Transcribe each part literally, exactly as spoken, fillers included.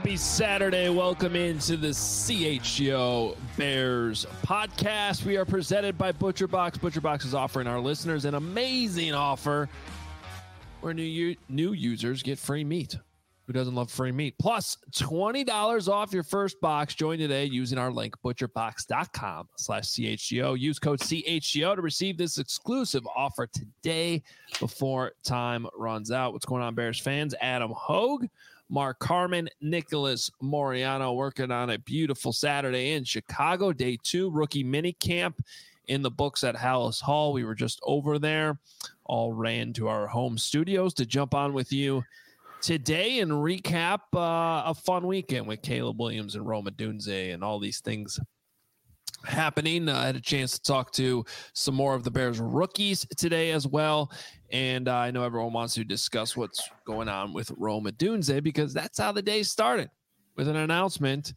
Happy Saturday. Welcome into the C H G O Bears podcast. We are presented by ButcherBox. ButcherBox is offering our listeners an amazing offer where new new users get free meat. Who doesn't love free meat? Plus twenty dollars off your first box. Join today using our link, butcherbox.com slash CHGO. Use code C H G O to receive this exclusive offer today before time runs out. What's going on, Bears fans? Adam Hogue, Mark Carman, Nicholas Moriano working on a beautiful Saturday in Chicago. Day two, rookie mini camp in the books at Hallis Hall. We were just over there. All ran to our home studios to jump on with you today and recap uh, a fun weekend with Caleb Williams and Rome Odunze and all these things happening. Uh, I had a chance to talk to some more of the Bears rookies today as well. And uh, I know everyone wants to discuss what's going on with Rome Odunze because that's how the day started, with an announcement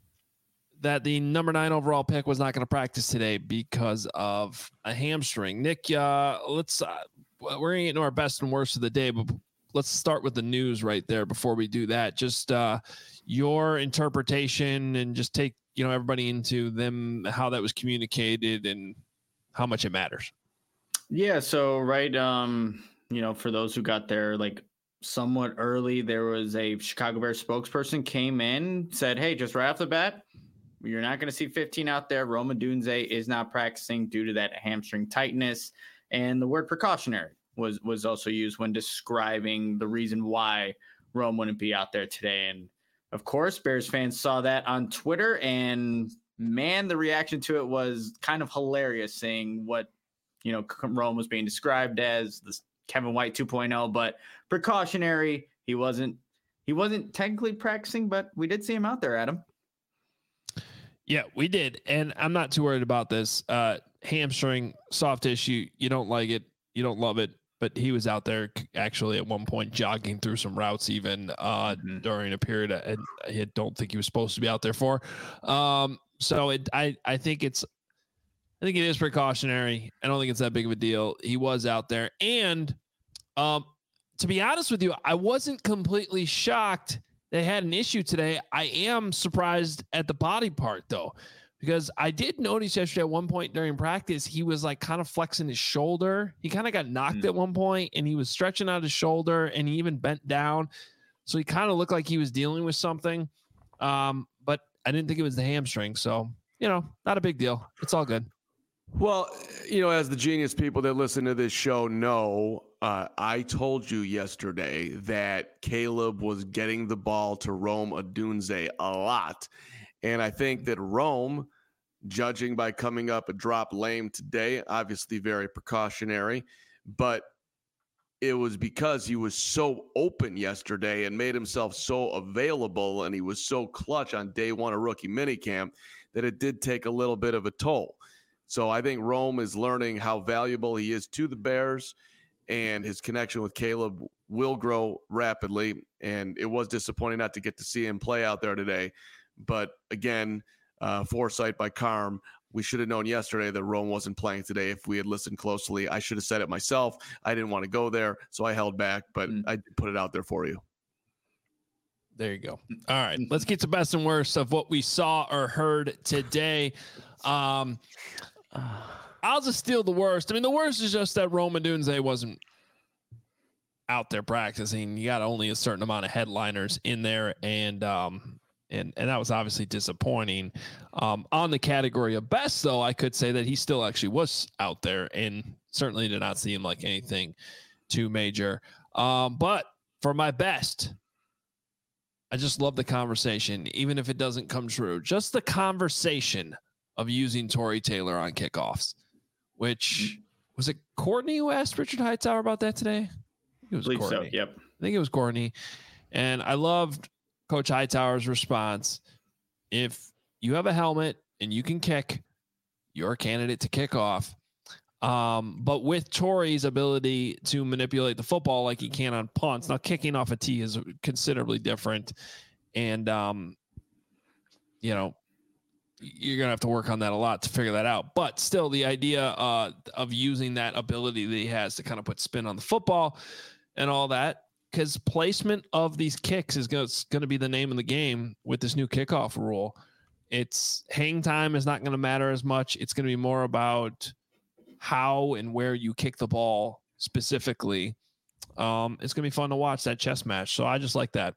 that the number nine overall pick was not going to practice today because of a hamstring. Nick, uh, let's uh, we're going to get into our best and worst of the day, but let's start with the news right there before we do that. Just uh, your interpretation and just take, you know, everybody into them, how that was communicated and how much it matters. Yeah. So, right. Um, you know, for those who got there, like somewhat early, there was a Chicago Bears spokesperson came in, said, hey, just right off the bat, you're not going to see fifteen out there. Rome Odunze is not practicing due to that hamstring tightness. And the word precautionary was was also used when describing the reason why Rome wouldn't be out there today. And of course, Bears fans saw that on Twitter, and man, the reaction to it was kind of hilarious, seeing what, you know, Rome was being described as this Kevin White two point oh, but precautionary. He wasn't, he wasn't technically practicing, but we did see him out there, Adam. Yeah, we did. And I'm not too worried about this. Uh, hamstring, soft tissue. You don't like it. You don't love it. But he was out there actually at one point jogging through some routes even uh, mm-hmm. during a period I, I don't think he was supposed to be out there for. Um, so it, I, I think it's, I think it is precautionary. I don't think it's that big of a deal. He was out there. And um, to be honest with you, I wasn't completely shocked they had an issue today. I am surprised at the body part though, because I did notice yesterday at one point during practice, he was like kind of flexing his shoulder. He kind of got knocked mm. at one point and he was stretching out his shoulder and he even bent down. So he kind of looked like he was dealing with something. Um, but I didn't think it was the hamstring. So, you know, not a big deal. It's all good. Well, you know, as the genius people that listen to this show know, uh, I told you yesterday that Caleb was getting the ball to Rome Odunze a lot. And I think that Rome, judging by coming up a drop lame today, obviously very precautionary, but it was because he was so open yesterday and made himself so available and he was so clutch on day one of rookie minicamp that it did take a little bit of a toll. So I think Rome is learning how valuable he is to the Bears, and his connection with Caleb will grow rapidly. And it was disappointing not to get to see him play out there today. But again, uh, foresight by Carm. We should have known yesterday that Rome wasn't playing today if we had listened closely. I should have said it myself. I didn't want to go there, so I held back, but mm. I did put it out there for you. There you go. All right, let's get to best and worst of what we saw or heard today. Um, I'll just steal the worst. I mean, the worst is just that Rome Odunze wasn't out there practicing. You got only a certain amount of headliners in there, and um, and and that was obviously disappointing. Um, on the category of best, though, I could say that he still actually was out there, and certainly did not seem like anything too major. Um, but for my best, I just love the conversation, even if it doesn't come true. Just the conversation of using Tory Taylor on kickoffs, which was it Courtney who asked Richard Hightower about that today? It was Courtney. So, yep. I think it was Courtney. And I loved Coach Hightower's response. If you have a helmet and you can kick, you're a candidate to kick off. Um, but with Tory's ability to manipulate the football like he can on punts, now kicking off a tee is considerably different. And, um, you know, you're going to have to work on that a lot to figure that out. But still, the idea uh, of using that ability that he has to kind of put spin on the football and all that because placement of these kicks is going to be the name of the game with this new kickoff rule. It's hang time is not going to matter as much. It's going to be more about how and where you kick the ball specifically. Um, it's going to be fun to watch that chess match. So I just like that.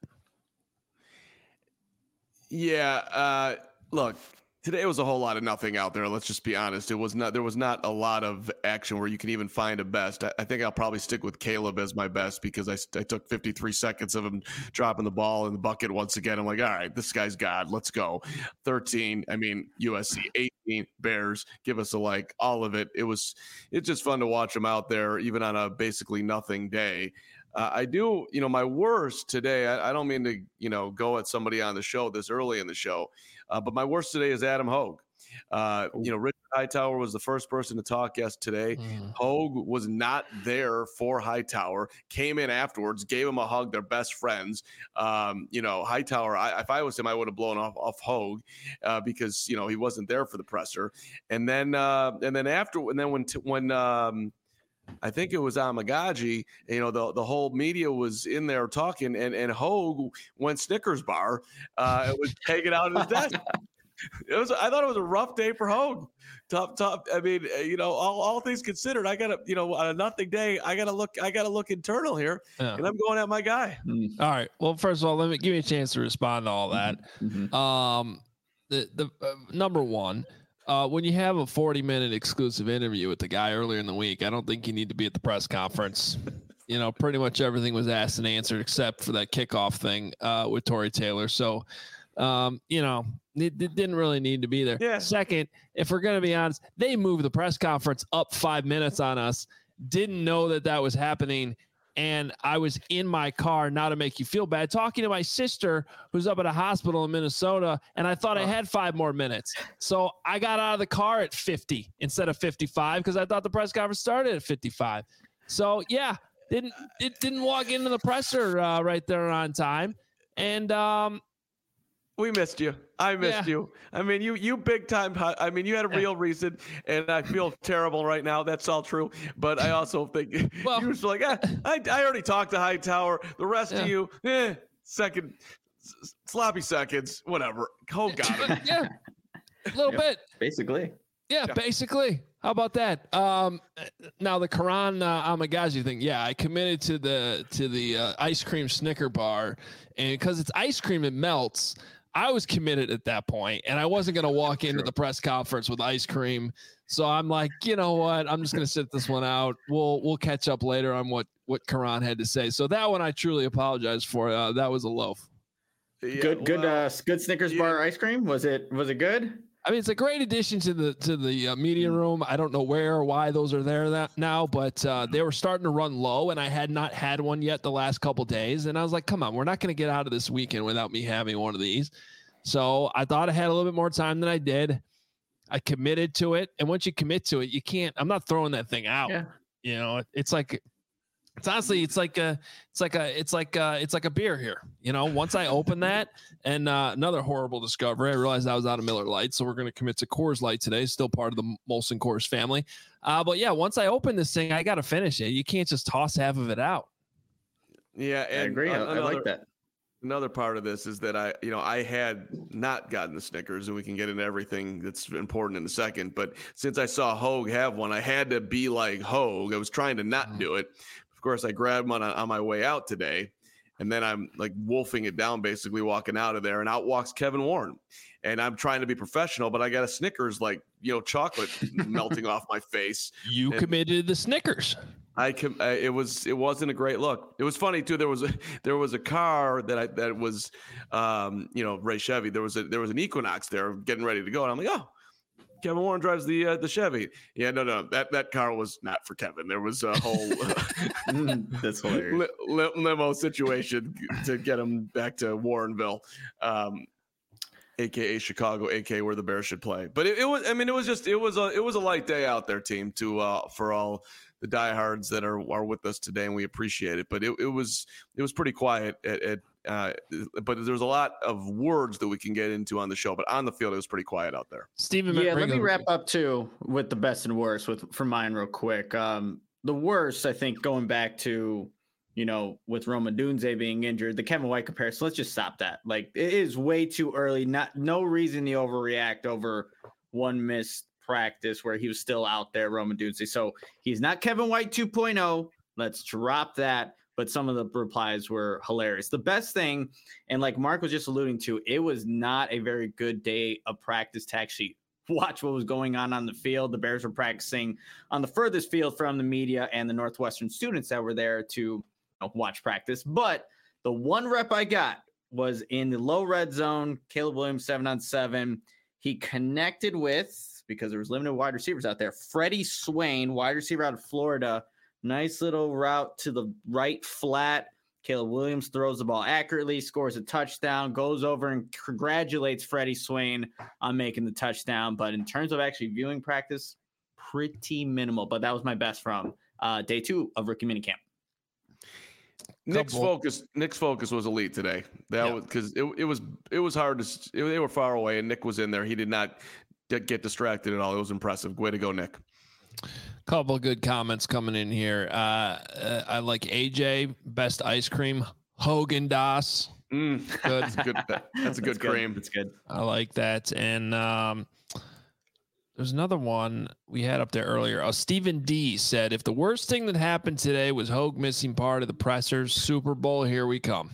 Yeah. Uh, look, today was a whole lot of nothing out there. Let's just be honest. It was not, there was not a lot of action where you can even find a best. I, I think I'll probably stick with Caleb as my best because I, I took fifty-three seconds of him dropping the ball in the bucket once again. I'm like, all right, this guy's God. Let's go. thirteen. I mean, U S C, eighteen Bears, give us a like, all of it. It was, it's just fun to watch them out there, even on a basically nothing day. Uh, I do, you know, my worst today, I, I don't mean to, you know, go at somebody on the show this early in the show, uh, but my worst today is Adam Hogue. Uh, you know, Richard Hightower was the first person to talk yes today. Mm. Hogue was not there for Hightower, came in afterwards, gave him a hug. They're best friends. Um, you know, Hightower, I, if I was him, I would have blown off, off Hogue uh, because, you know, he wasn't there for the presser. And then, uh, and then after, and then when, t- when, um, I think it was Amagaji, you know, the, the whole media was in there talking, and, and Hogue went Snickers bar. Uh, it was hanging out at his desk. It was, I thought it was a rough day for Hogue. Top, top. I mean, you know, all, all things considered, I got to, you know, on a nothing day, I got to look, I got to look internal here, yeah. and I'm going at my guy. Mm-hmm. All right. Well, first of all, let me give me a chance to respond to all that. Mm-hmm. Um, the, the uh, number one, Uh, when you have a forty minute exclusive interview with the guy earlier in the week, I don't think you need to be at the press conference. You know, pretty much everything was asked and answered except for that kickoff thing uh, with Tory Taylor. So, um, you know, it, it didn't really need to be there. Yeah. Second, if we're going to be honest, they moved the press conference up five minutes on us, didn't know that that was happening. And I was in my car, not to make you feel bad, talking to my sister who's up at a hospital in Minnesota, and I thought oh. I had five more minutes. So I got out of the car at fifty instead of fifty-five because I thought the press conference started at fifty-five. So, yeah, didn't it didn't walk into the presser uh, right there on time. And um, we missed you. I missed yeah. you. I mean, you you big time. I mean, you had a real reason, and I feel terrible right now. That's all true. But I also think well, you were like, eh, I I already talked to Hightower. The rest yeah. of you, eh, second, sloppy seconds, whatever. Oh God. Yeah, a little yeah, bit. Basically. Yeah, yeah, basically. How about that? Um, now the Karan uh, Amagaji thing. Yeah, I committed to the to the uh, ice cream Snicker bar, and because it's ice cream, it melts. I was committed at that point, and I wasn't going to walk into the press conference with ice cream. So I'm like, you know what? I'm just going to sit this one out. We'll we'll catch up later on what what Karan had to say. So that one I truly apologize for. Uh, that was a loaf. Yeah, good, good, well, uh, good Snickers yeah. bar ice cream. Was it was it good? I mean, it's a great addition to the to the uh, media room. I don't know where or why those are there that now, but uh, they were starting to run low, and I had not had one yet the last couple days. And I was like, come on, we're not going to get out of this weekend without me having one of these. So I thought I had a little bit more time than I did. I committed to it. And once you commit to it, you can't, I'm not throwing that thing out. Yeah. You know, it, it's like, it's honestly, it's like a, it's like a, it's like a, it's like a beer here. You know, once I open that and uh, another horrible discovery, I realized I was out of Miller Lite. So we're going to commit to Coors Light today, still part of the Molson Coors family. Uh, but yeah, once I open this thing, I got to finish it. You can't just toss half of it out. Yeah. And I agree. I, another, I like that. Another part of this is that I, you know, I had not gotten the Snickers, and we can get into everything that's important in a second. But since I saw Hogue have one, I had to be like Hogue. I was trying to not do it. Of course, I grabbed one on, on my way out today, and then I'm like wolfing it down, basically walking out of there, and out walks Kevin Warren. And I'm trying to be professional, but I got a Snickers, like, you know, chocolate melting off my face. You and committed the Snickers. I com- uh, it was it wasn't a great look. It was funny too. There was a there was a car that I that was um you know Ray Chevy. There was a there was an Equinox there getting ready to go, and I'm like, oh, Kevin Warren drives the uh, the Chevy. Yeah, no, no, that that car was not for Kevin. There was a whole that's hilarious li- li- limo situation to get him back to Warrenville. Um, A K A Chicago, A K A where the Bears should play. But it, it was, I mean, it was just, it was a, it was a light day out there, team, to uh, for all the diehards that are are with us today, and we appreciate it. But it, it was, it was pretty quiet. At, at uh, but there's a lot of words that we can get into on the show. But on the field, it was pretty quiet out there. Steven, yeah. Let me wrap up too with the best and worst with for mine real quick. Um, the worst, I think, going back to you know, with Rome Odunze being injured, the Kevin White comparison, let's just stop that. Like, it is way too early. Not no reason to overreact over one missed practice where he was still out there, Rome Odunze. So he's not Kevin White two point oh. Let's drop that. But some of the replies were hilarious. The best thing, and like Mark was just alluding to, it was not a very good day of practice to actually watch what was going on on the field. The Bears were practicing on the furthest field from the media and the Northwestern students that were there to you know, watch practice. But the one rep I got was in the low red zone. Caleb Williams, seven on seven. He connected with, because there was limited wide receivers out there, Freddie Swain, wide receiver out of Florida. Nice little route to the right flat. Caleb Williams throws the ball accurately, scores a touchdown, goes over and congratulates Freddie Swain on making the touchdown. But in terms of actually viewing practice, pretty minimal. But that was my best from uh, day two of rookie minicamp. Nick's Couple. focus, Nick's focus was elite today. That Yeah. was because it, it was it was hard to. It, they were far away, and Nick was in there. He did not get, get distracted at all. It was impressive. Way to go, Nick. Couple of good comments coming in here. Uh, uh, I like A J, best ice cream, Hogan Das. Mm, Good. that's a good. That's a good That's cream. That's good. I like that. And um, there's another one we had up there earlier. Uh, Stephen D said, if the worst thing that happened today was Hogue missing part of the pressers, Super Bowl, here we come.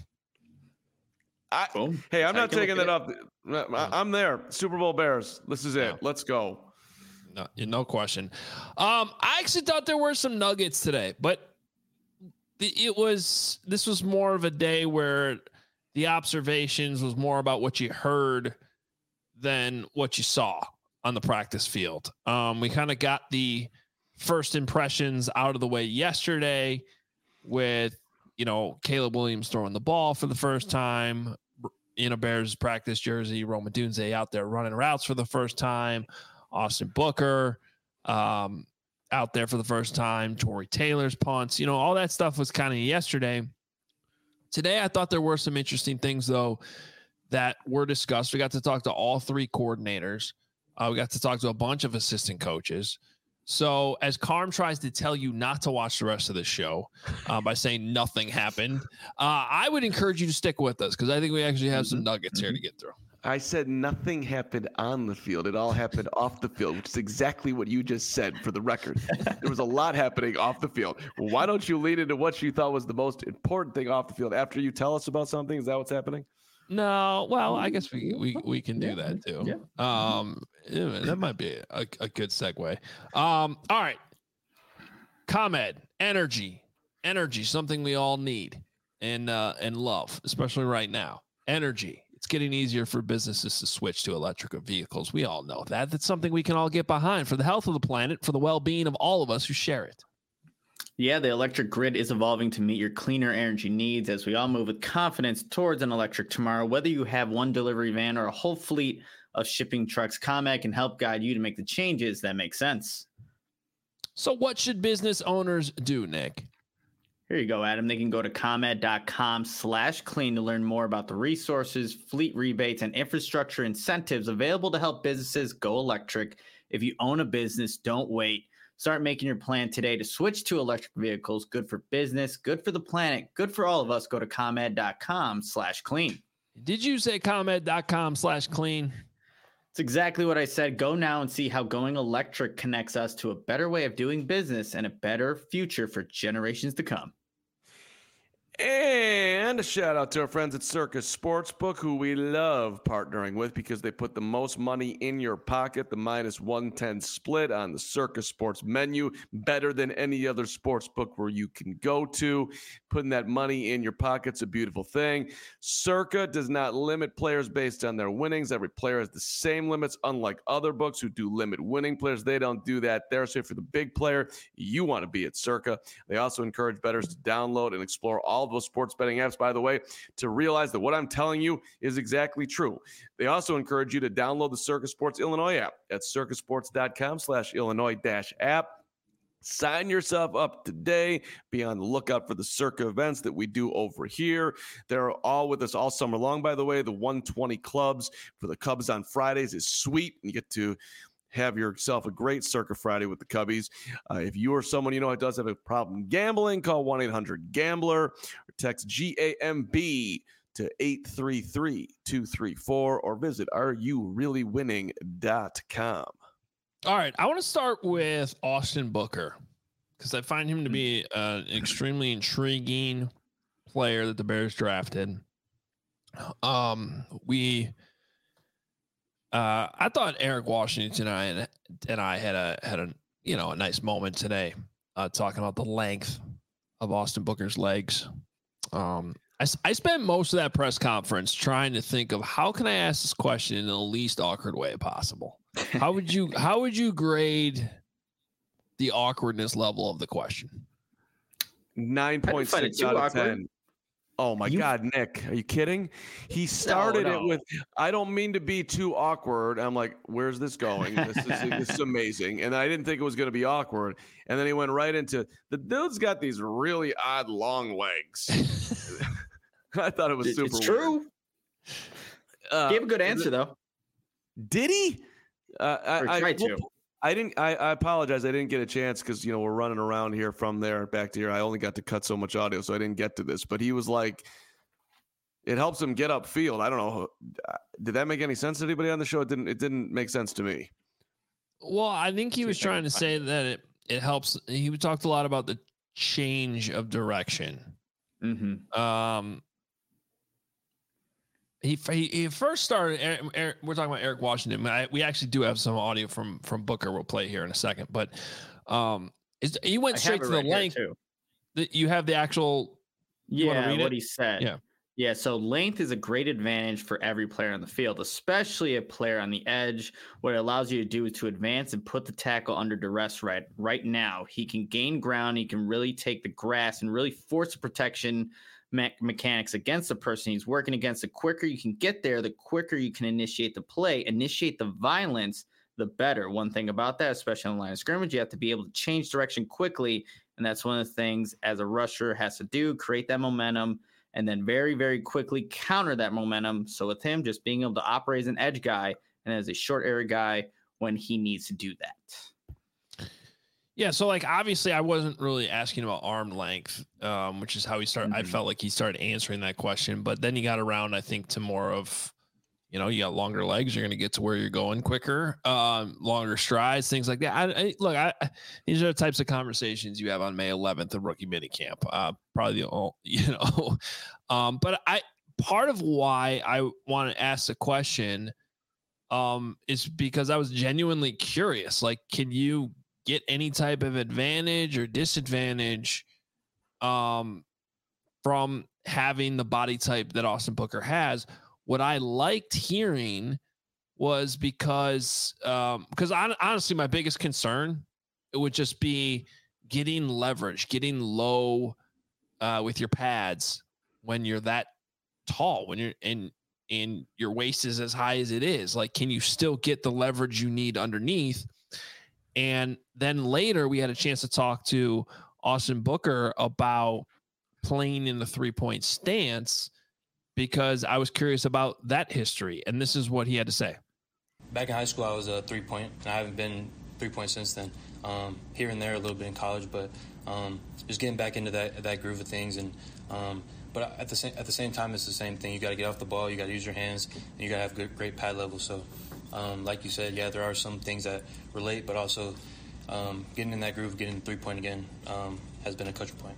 I, Boom. hey, I'm not Take a taking look that off. I- I'm there. Super Bowl Bears. This is it. Yeah. Let's go. No, no question. Um, I actually thought there were some nuggets today, but it was this was more of a day where the observations was more about what you heard than what you saw on the practice field. Um, we kind of got the first impressions out of the way yesterday with, you know, Caleb Williams throwing the ball for the first time in a Bears practice jersey, Rome Odunze out there running routes for the first time, Austin Booker um, out there for the first time, Torrey Taylor's punts, you know, all that stuff was kind of yesterday. Today, I thought there were some interesting things, though, that were discussed. We got to talk to all three coordinators. Uh, we got to talk to a bunch of assistant coaches. So as Carm tries to tell you not to watch the rest of the show uh, by saying nothing happened, uh, I would encourage you to stick with us because I think we actually have some nuggets here to get through. I said nothing happened on the field. It all happened off the field, which is exactly what you just said for the record. There was a lot happening off the field. Well, why don't you lead into what you thought was the most important thing off the field after you tell us about something? Is that what's happening? No, well, I guess we we, we can do Yeah, that too. yeah. Um, yeah, that might be a, a good segue. Um, all right, ComEd, energy, energy, something we all need and uh, and love, especially right now. Energy. It's getting easier for businesses to switch to electric vehicles. We all know that. That's something we can all get behind for the health of the planet, for the well-being of all of us who share it. Yeah, the electric grid is evolving to meet your cleaner energy needs as we all move with confidence towards an electric tomorrow. Whether you have one delivery van or a whole fleet of shipping trucks, ComEd can help guide you to make the changes that make sense. So what should business owners do, Nick? Here you go, Adam. They can go to ComEd.com slash clean to learn more about the resources, fleet rebates, and infrastructure incentives available to help businesses go electric. If you own a business, don't wait. Start making your plan today to switch to electric vehicles. Good for business, good for the planet, good for all of us. Go to ComEd.com slash clean. Did you say ComEd.com slash clean? It's exactly what I said. Go now and see how going electric connects us to a better way of doing business and a better future for generations to come. And a shout out to our friends at Circus Sportsbook, who we love partnering with because they put the most money in your pocket. The minus one ten split on the Circus Sports menu, better than any other sports book where you can go to. Putting that money in your pocket's a beautiful thing. Circa does not limit players based on their winnings. Every player has the same limits, unlike other books who do limit winning players. They don't do that there. So for the big player, you want to be at Circa. They also encourage bettors to download and explore all of those sports betting apps, by the way, to realize that what I'm telling you is exactly true. They also encourage you to download the Circa Sports Illinois app at circasports.com slash Illinois dash app. Sign yourself up today. Be on the lookout for the Circa events that we do over here. They're all with us all summer long, by the way. The one twenty clubs for the Cubs on Fridays is sweet. You get to have yourself a great Circa Friday with the Cubbies. Uh, if you are someone you know that does have a problem gambling, call one eight hundred gambler or text G A M B to eight three three, two three four or visit are you really winning dot com. All right, I want to start with Austin Booker because I find him to be uh, an extremely intriguing player that the Bears drafted. Um, we, uh, I thought Eric Washington and I and I had a had a you know a nice moment today, uh, talking about the length of Austin Booker's legs. Um, I I spent most of that press conference trying to think of how can I ask this question in the least awkward way possible. How would you how would you grade the awkwardness level of the question? nine point six out of ten. Oh my you, God, Nick, are you kidding? He started no, no. it with, I don't mean to be too awkward. I'm like, where's this going? This is, this is amazing. And I didn't think it was going to be awkward. And then he went right into, the dude's got these really odd long legs. I thought it was super It's true. Uh, Gave a good answer, though. Did he? Uh, I, I, I, to. I didn't. I, I apologize. I didn't get a chance because you know we're running around here from there back to here. I only got to cut so much audio, so I didn't get to this. But he was like, it helps him get upfield. I don't know. Did that make any sense to anybody on the show? It didn't. It didn't make sense to me. Well, I think he was trying to say that it it helps. He talked a lot about the change of direction. Mm-hmm. Um. He, he he first started. Eric, Eric, we're talking about Eric Washington. I, we actually do have some audio from from Booker. We'll play here in a second. But um, is, he went straight to the right length. That you have the actual. Yeah, what it? he said. Yeah, yeah. So length is a great advantage for every player on the field, especially a player on the edge. What it allows you to do is to advance and put the tackle under duress. Right, right now, he can gain ground. He can really take the grass and really force the protection me- mechanics against the person he's working against. The quicker you can get there, the quicker you can initiate the play, initiate the violence, the better. One thing about that, especially on the line of scrimmage, you have to be able to change direction quickly. And that's one of the things as a rusher has to do, create that momentum and then very, very quickly counter that momentum. So with him, just being able to operate as an edge guy and as a short area guy when he needs to do that. Yeah, so like obviously I wasn't really asking about arm length, um, which is how he started. Mm-hmm. I felt like he started answering that question, but then he got around, I think, to more of, you know, you got longer legs, you're going to get to where you're going quicker, um, longer strides, things like that. I, I look, I, these are the types of conversations you have on May eleventh of rookie minicamp. Uh, probably the only, you know, um, but I part of why I want to ask the question, um, is because I was genuinely curious. Like, can you get any type of advantage or disadvantage um, from having the body type that Austin Booker has? What I liked hearing was because, um, because I, honestly, my biggest concern, it would just be getting leverage, getting low uh, with your pads when you're that tall, when you're in, and your waist is as high as it is. Like, can you still get the leverage you need underneath? And then later we had a chance to talk to Austin Booker about playing in the three-point stance because I was curious about that history. And this is what he had to say. Back in high school, I was a three-point, and I haven't been three-point since then. Um, here and there a little bit in college, but um, just getting back into that that groove of things. And um, but at the same at the same time, it's the same thing. You got to get off the ball. You got to use your hands, and you got to have good, great pad level. So. Um, like you said, yeah, there are some things that relate, but also um, getting in that groove, getting three-point again um, has been a culture point.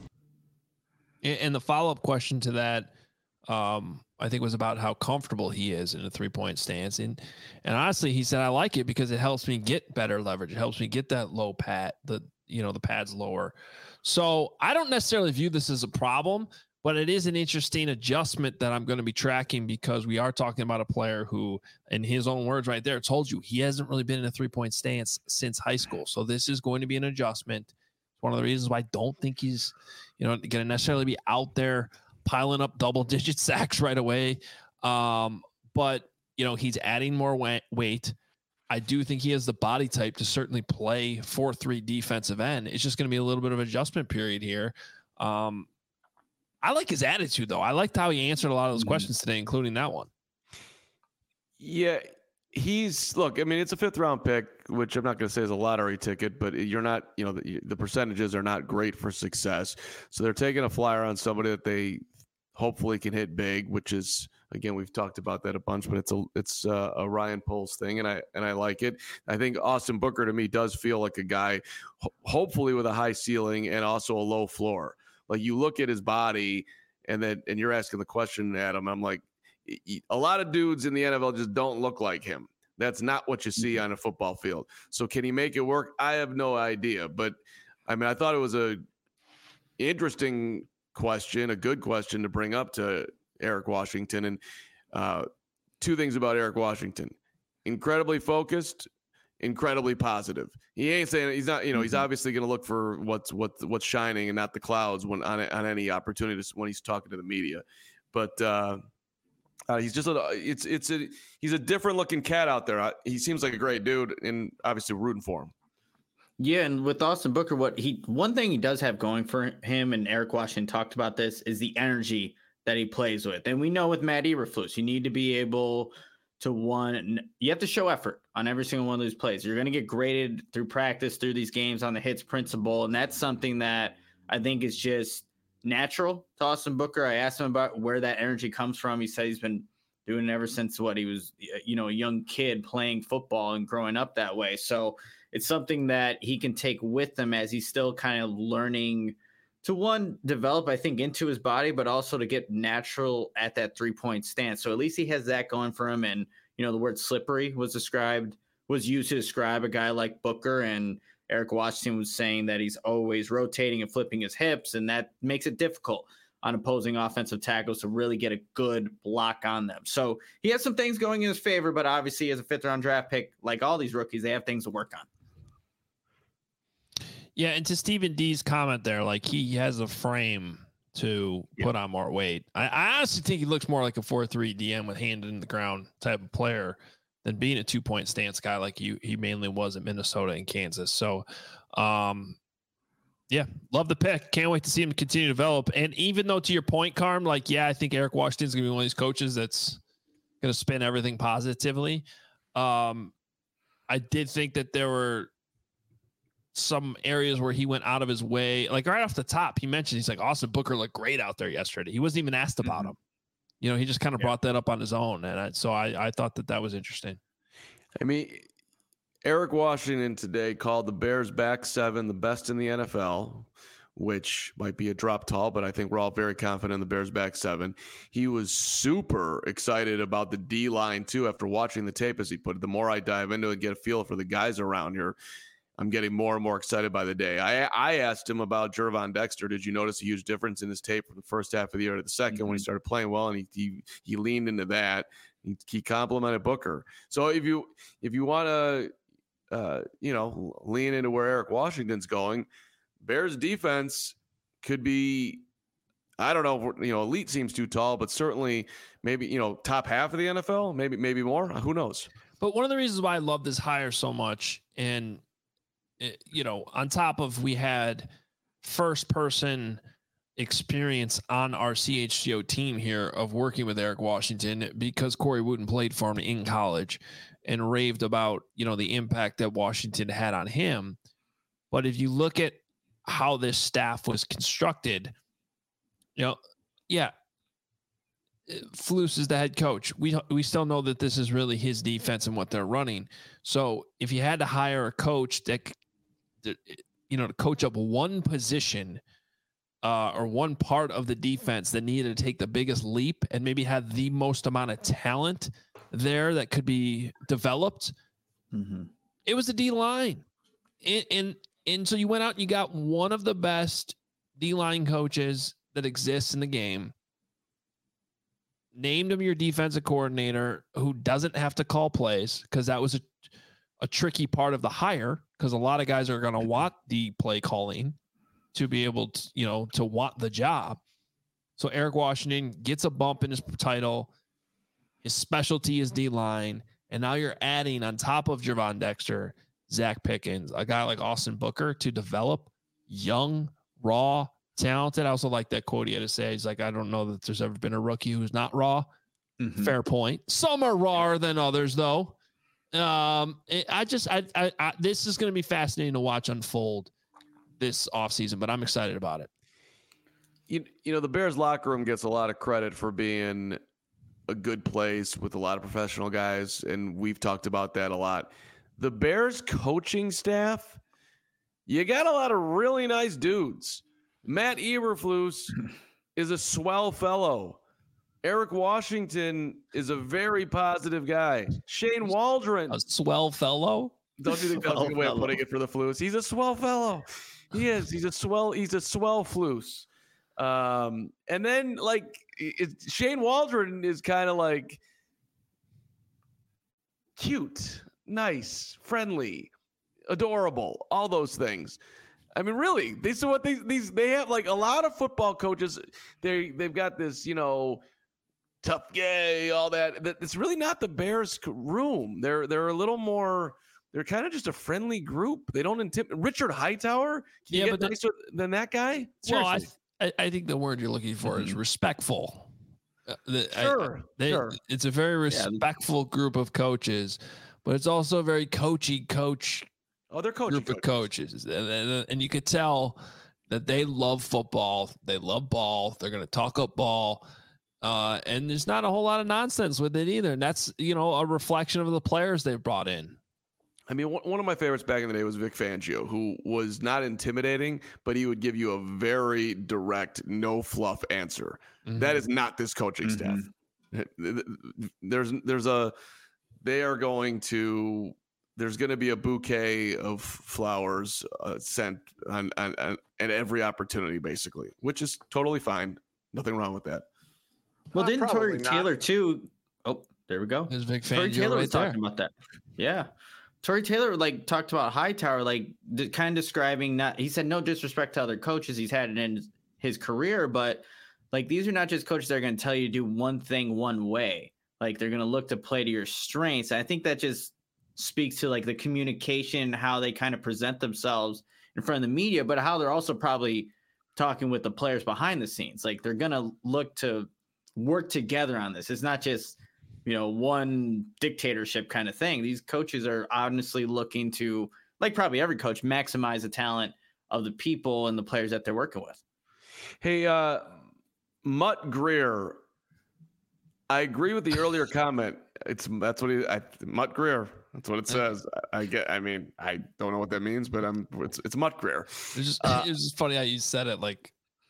And the follow-up question to that, um, I think, was about how comfortable he is in a three-point stance. And and honestly, he said, I like it because it helps me get better leverage. It helps me get that low pad, the you know, the pads lower. So I don't necessarily view this as a problem, but it is an interesting adjustment that I'm going to be tracking because we are talking about a player who, in his own words right there, told you he hasn't really been in a three-point stance since high school. So this is going to be an adjustment. It's one of the reasons why I don't think he's, you know, going to necessarily be out there piling up double-digit sacks right away. Um, but, you know, he's adding more weight. I do think he has the body type to certainly play four three defensive end. It's just going to be a little bit of adjustment period here. Um, I like his attitude, though. I liked how he answered a lot of those questions today, including that one. Yeah, he's look. I mean, it's a fifth round pick, which I'm not going to say is a lottery ticket, but you're not. You know, the, the percentages are not great for success. So they're taking a flyer on somebody that they hopefully can hit big, which is, again, we've talked about that a bunch, but it's a it's a, a Ryan Poles thing, and I and I like it. I think Austin Booker to me does feel like a guy, ho- hopefully with a high ceiling and also a low floor. Like you look at his body, and then and you're asking the question, Adam. I'm like, a lot of dudes in the N F L just don't look like him. That's not what you see on a football field. So can he make it work? I have no idea, but I mean, I thought it was a interesting question, a good question to bring up to Eric Washington. And uh, two things about Eric Washington: incredibly focused, incredibly positive. He ain't saying he's not, you know, he's obviously going to look for what's what's what's shining and not the clouds when on on any opportunity when he's talking to the media. But uh, uh, he's just a it's it's a he's a different looking cat out there. He seems like a great dude, and obviously rooting for him. Yeah, and with Austin Booker, what he one thing he does have going for him, and Eric Washington talked about this, is the energy that he plays with. And we know with Matt Eberflus, you need to be able to one, you have to show effort on every single one of those plays. You're going to get graded through practice, through these games on the hits principle, and that's something that I think is just natural to Austin Booker. I asked him about where that energy comes from. He said he's been doing it ever since what he was, you know, a young kid playing football and growing up that way. So it's something that he can take with him as he's still kind of learning to, one, develop, I think, into his body, but also to get natural at that three-point stance. So at least he has that going for him. And, you know, the word slippery was described, was used to describe a guy like Booker. And Eric Washington was saying that he's always rotating and flipping his hips, and that makes it difficult on opposing offensive tackles to really get a good block on them. So he has some things going in his favor, but obviously as a fifth-round draft pick, like all these rookies, they have things to work on. Yeah, and to Stephen D's comment there, like he has a frame to yeah. put on more weight. I, I honestly think he looks more like a four three D M with hand in the ground type of player than being a two-point stance guy like you, he mainly was at Minnesota and Kansas. So, um, yeah, love the pick. Can't wait to see him continue to develop. And even though, to your point, Carm, like, yeah, I think Eric Washington's going to be one of these coaches that's going to spin everything positively. Um, I did think that there were some areas where he went out of his way. Like right off the top, he mentioned, he's like, Austin Booker looked great out there yesterday. He wasn't even asked about mm-hmm. him. You know, he just kind of yeah. brought that up on his own. And I, so I, I thought that that was interesting. I mean, Eric Washington today called the Bears back seven the best in the N F L, which might be a drop tall, but I think we're all very confident in the Bears back seven. He was super excited about the D line too after watching the tape, as he put it. The more I dive into it, get a feel for the guys around here, I'm getting more and more excited by the day. I I asked him about Gervon Dexter. Did you notice a huge difference in his tape from the first half of the year to the second mm-hmm. when he started playing well? And he he, he leaned into that. He, he complimented Booker. So if you if you want to uh, you know lean into where Eric Washington's going, Bears defense could be, I don't know, you know, elite seems too tall, but certainly maybe, you know, top half of the N F L, maybe maybe more. Who knows? But one of the reasons why I love this hire so much, and you know, on top of we had first person experience on our C H G O team here of working with Eric Washington, because Corey Wooten played for him in college and raved about, you know, the impact that Washington had on him. But if you look at how this staff was constructed, you know, yeah, Flus is the head coach. We we still know that this is really his defense and what they're running. So if you had to hire a coach that, you know, to coach up one position uh, or one part of the defense that needed to take the biggest leap and maybe had the most amount of talent there that could be developed, mm-hmm. it was the D line. And, and and so you went out and you got one of the best D line coaches that exists in the game. Named him your defensive coordinator, who doesn't have to call plays, because that was a, a tricky part of the hire, because a lot of guys are going to want the play calling to be able to, you know, to want the job. So Eric Washington gets a bump in his title. His specialty is D-line. And now you're adding on top of Gervon Dexter, Zach Pickens, a guy like Austin Booker, to develop young, raw, talented. I also like that quote he had to say. He's like, I don't know that there's ever been a rookie who's not raw. Mm-hmm. Fair point. Some are rawer than others, though. Um, it, I just, I, I, I this is going to be fascinating to watch unfold this offseason, but I'm excited about it. You, you know, the Bears locker room gets a lot of credit for being a good place with a lot of professional guys, and we've talked about that a lot. The Bears coaching staff, you got a lot of really nice dudes. Matt Eberflus is a swell fellow. Eric Washington is a very positive guy. Shane Waldron. A swell fellow? Don't you think that's a good way of putting it for the Flus? He's a swell fellow. He is. He's a swell. He's a swell Flus. Um, and then like it, Shane Waldron is kind of like cute, nice, friendly, adorable, all those things. I mean, really, these are what they these they have like a lot of football coaches. They they've got this, you know, tough guy, all that. It's really not the Bears room. They're they're a little more. They're kind of just a friendly group. They don't intimidate. Richard Hightower. Can you yeah, get but nicer the, than that guy? Seriously. Well, I, I think the word you're looking for mm-hmm. is respectful. Uh, the, sure, I, they, sure. It's a very respectful yeah. group of coaches, but it's also a very coachy coach. Oh, they're coachy group coaches. of coaches, and, and, and you could tell that they love football. They love ball. They're going to talk up ball. Uh, and there's not a whole lot of nonsense with it either. And that's, you know, a reflection of the players they've brought in. I mean, one of my favorites back in the day was Vic Fangio, who was not intimidating, but he would give you a very direct, no fluff answer. Mm-hmm. That is not this coaching mm-hmm. staff. There's, there's a, they are going to, there's going to be a bouquet of flowers uh, sent on, on, on at every opportunity, basically, which is totally fine. Nothing wrong with that. Well, uh, didn't Tory Taylor too? Oh, there we go. There's Vic Fangio Tory Taylor right was there. talking about that. Yeah. Tory Taylor like talked about Hightower, like d- kind of describing not. He said no disrespect to other coaches he's had in his career, but like these are not just coaches that are going to tell you to do one thing one way. Like they're going to look to play to your strengths. And I think that just speaks to like the communication, how they kind of present themselves in front of the media, but how they're also probably talking with the players behind the scenes. Like they're going to look to work together on this. It's not just, you know, one dictatorship kind of thing. These coaches are honestly looking to, like probably every coach, maximize the talent of the people and the players that they're working with. Hey, uh, Mutt Greer, I agree with the earlier comment. It's that's what he, I, Mutt Greer. That's what it says. I, I get. I mean, I don't know what that means, but I'm. It's it's Mutt Greer. It's just uh, it's just funny how you said it. Like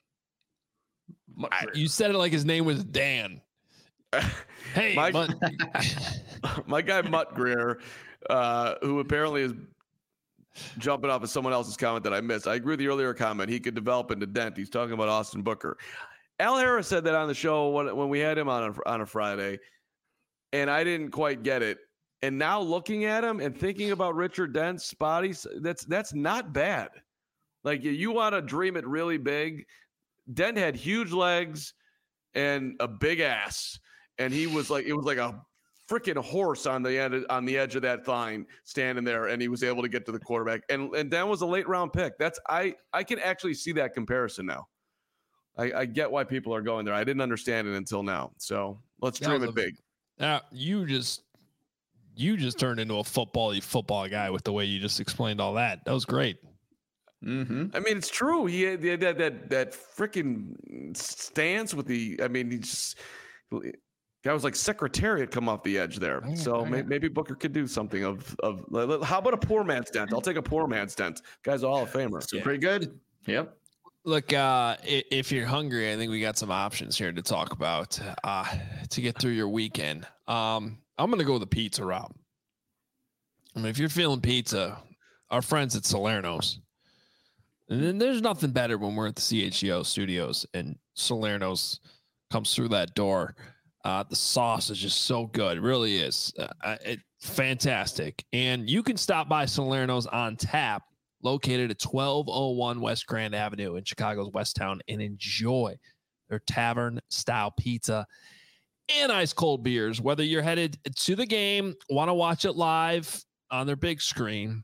I, you said it like his name was Dan. Hey, my, Mutt. my guy Mutt Greer, uh, who apparently is jumping off of someone else's comment that I missed. I agree with the earlier comment. He could develop into Dent. He's talking about Austin Booker. Al Harris said that on the show when when we had him on a, on a Friday, and I didn't quite get it. And now looking at him and thinking about Richard Dent's spotty, that's that's not bad. Like you want to dream it really big. Dent had huge legs and a big ass, and he was like it was like a freaking horse on the end on the edge of that thigh, standing there, and he was able to get to the quarterback. And and Dent was a late round pick. That's I I can actually see that comparison now. I, I get why people are going there. I didn't understand it until now. So let's dream it big. Now you just. You just turned into a football football guy with the way you just explained all that. That was great. Mm-hmm. I mean, it's true. He had, he had that that that freaking stance with the. I mean, he just guy was like Secretariat come off the edge there. Yeah, so yeah. Maybe, maybe Booker could do something of of. How about a poor man's Dent? I'll take a poor man's Dent. Guy's a Hall of Famer. So yeah. Pretty good. Yep. Look, uh, if you're hungry, I think we got some options here to talk about uh, to get through your weekend. Um, I'm going to go with the pizza route. I mean, if you're feeling pizza, our friends at Salerno's, and then there's nothing better when we're at the C H G O studios and Salerno's comes through that door. Uh, the sauce is just so good. It really is. Uh, it, fantastic. And you can stop by Salerno's on tap, located at twelve oh one West Grand Avenue in Chicago's West Town, and enjoy their tavern-style pizza and ice cold beers. Whether you're headed to the game, want to watch it live on their big screen,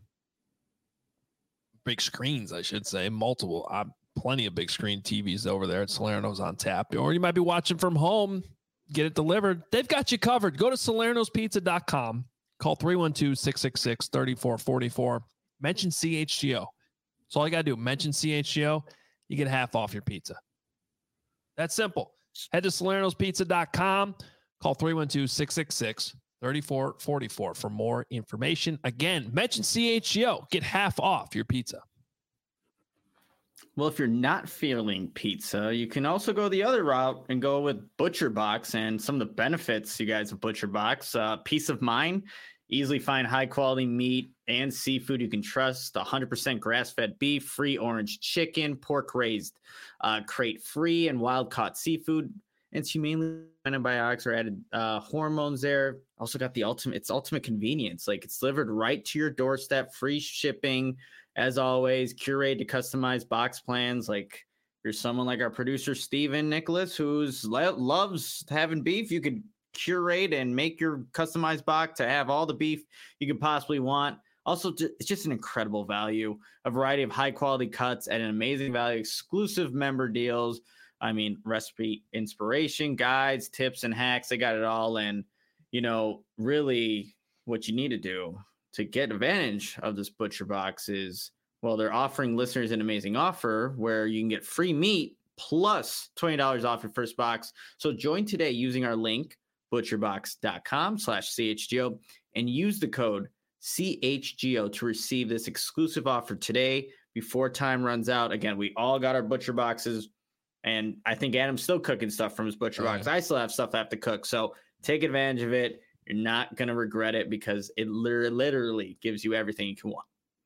big screens, I should say, multiple, uh, plenty of big screen T Vs over there at Salerno's on tap, or you might be watching from home, get it delivered. They've got you covered. Go to salernos pizza dot com, Call three one two, six six six, three four four four. Mention C H G O. That's all you got to do. Mention C H G O. You get half off your pizza. That's simple. Head to salernos pizza dot com. Call three one two, six six six, three four four four for more information. Again, mention C H G O. Get half off your pizza. Well, if you're not feeling pizza, you can also go the other route and go with ButcherBox and some of the benefits you guys of ButcherBox. Uh, peace of mind, easily find high quality meat and seafood you can trust. one hundred percent grass-fed beef, free orange chicken, pork raised, uh, crate free, and wild caught seafood. It's humanely antibiotics or added uh, hormones there. Also got the ultimate, it's ultimate convenience. Like it's delivered right to your doorstep, free shipping. As always, curate to customize box plans. Like you're someone like our producer, Steven Nicholas, who's lo- loves having beef. You could curate and make your customized box to have all the beef you could possibly want. Also, it's just an incredible value, a variety of high quality cuts at an amazing value, exclusive member deals. I mean, recipe inspiration, guides, tips, and hacks. They got it all. And, you know, really what you need to do to get advantage of this ButcherBox is, well, they're offering listeners an amazing offer where you can get free meat plus twenty dollars off your first box. So join today using our link, butcherbox dot com slash C H G O, and use the code C H G O to receive this exclusive offer today before time runs out. Again, we all got our Butcher Boxes, and I think Adam's still cooking stuff from his Butcher Box. I still have stuff I have to cook. So take advantage of it. You're not going to regret it because it literally gives you everything you can want.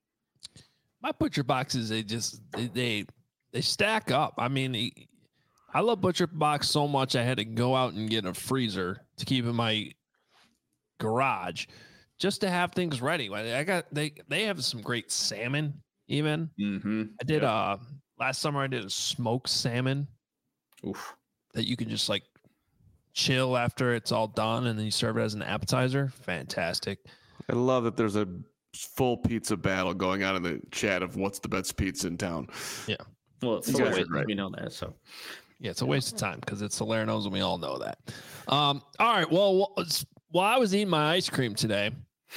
My Butcher Boxes, they just, they, they, they stack up. I mean, I love Butcher Box so much I had to go out and get a freezer to keep in my garage just to have things ready. I got, they, they have some great salmon even. Mm-hmm. I did, yep. uh, last summer I did a smoked salmon. Oof. That you can just like chill after it's all done and then you serve it as an appetizer. Fantastic. I love that there's a full pizza battle going on in the chat of what's the best pizza in town. Yeah. Well, it's a waste, right. We know that. So yeah, it's a waste of time because it's Salerno's and we all know that. Um, all right. Well, while I was eating my ice cream today,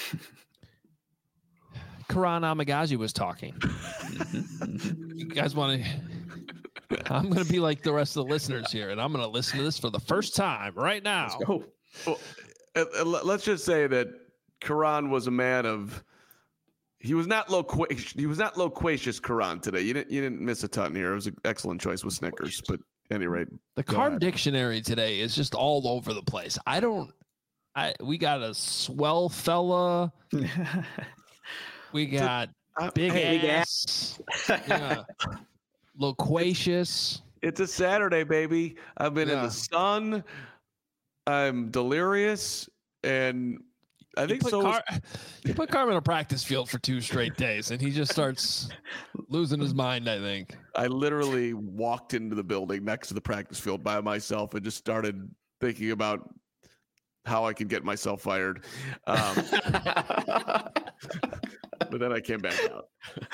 Karan Amagaji was talking. You guys want to? I'm going to be like the rest of the listeners here, and I'm going to listen to this for the first time right now. Let's go. Well, uh, let's just say that Karan was a man of. He was not loquacious. He was not loquacious, Karan, today. You didn't. You didn't miss a ton here. It was an excellent choice with Snickers, but at any rate, the Carb ahead. Dictionary today is just all over the place. I don't. I we got a swell fella. We got a, big hey, ass. Yeah. Loquacious. It's a Saturday, baby. I've been yeah. in the sun. I'm delirious, and I think you so. Car- was- you put Carmen in a practice field for two straight days, and he just starts losing his mind. I think I literally walked into the building next to the practice field by myself and just started thinking about how I could get myself fired. Um, but then I came back out.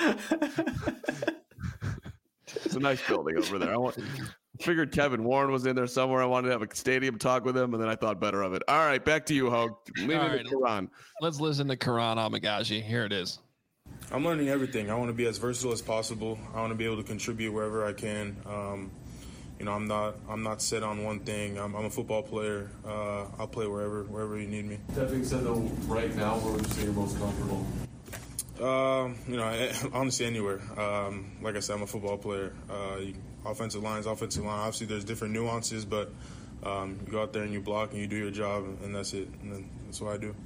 It's a nice building over there. I want, figured Kevin Warren was in there somewhere. I wanted to have a stadium talk with him, and then I thought better of it. All right, back to you, Hogue. Leave All it right, to Karan. Let's listen to Karan Amagaji. Here it is. I'm learning everything. I want to be as versatile as possible. I want to be able to contribute wherever I can. Um, you know, I'm not I'm not set on one thing. I'm, I'm a football player. Uh, I'll play wherever wherever you need me. That being said, though, right now, where would you say you're most comfortable? Um, you know, honestly, anywhere. Um, like I said, I'm a football player. Uh, you, offensive lines, offensive line. Obviously, there's different nuances, but um, you go out there and you block and you do your job, and that's it. And then that's what I do.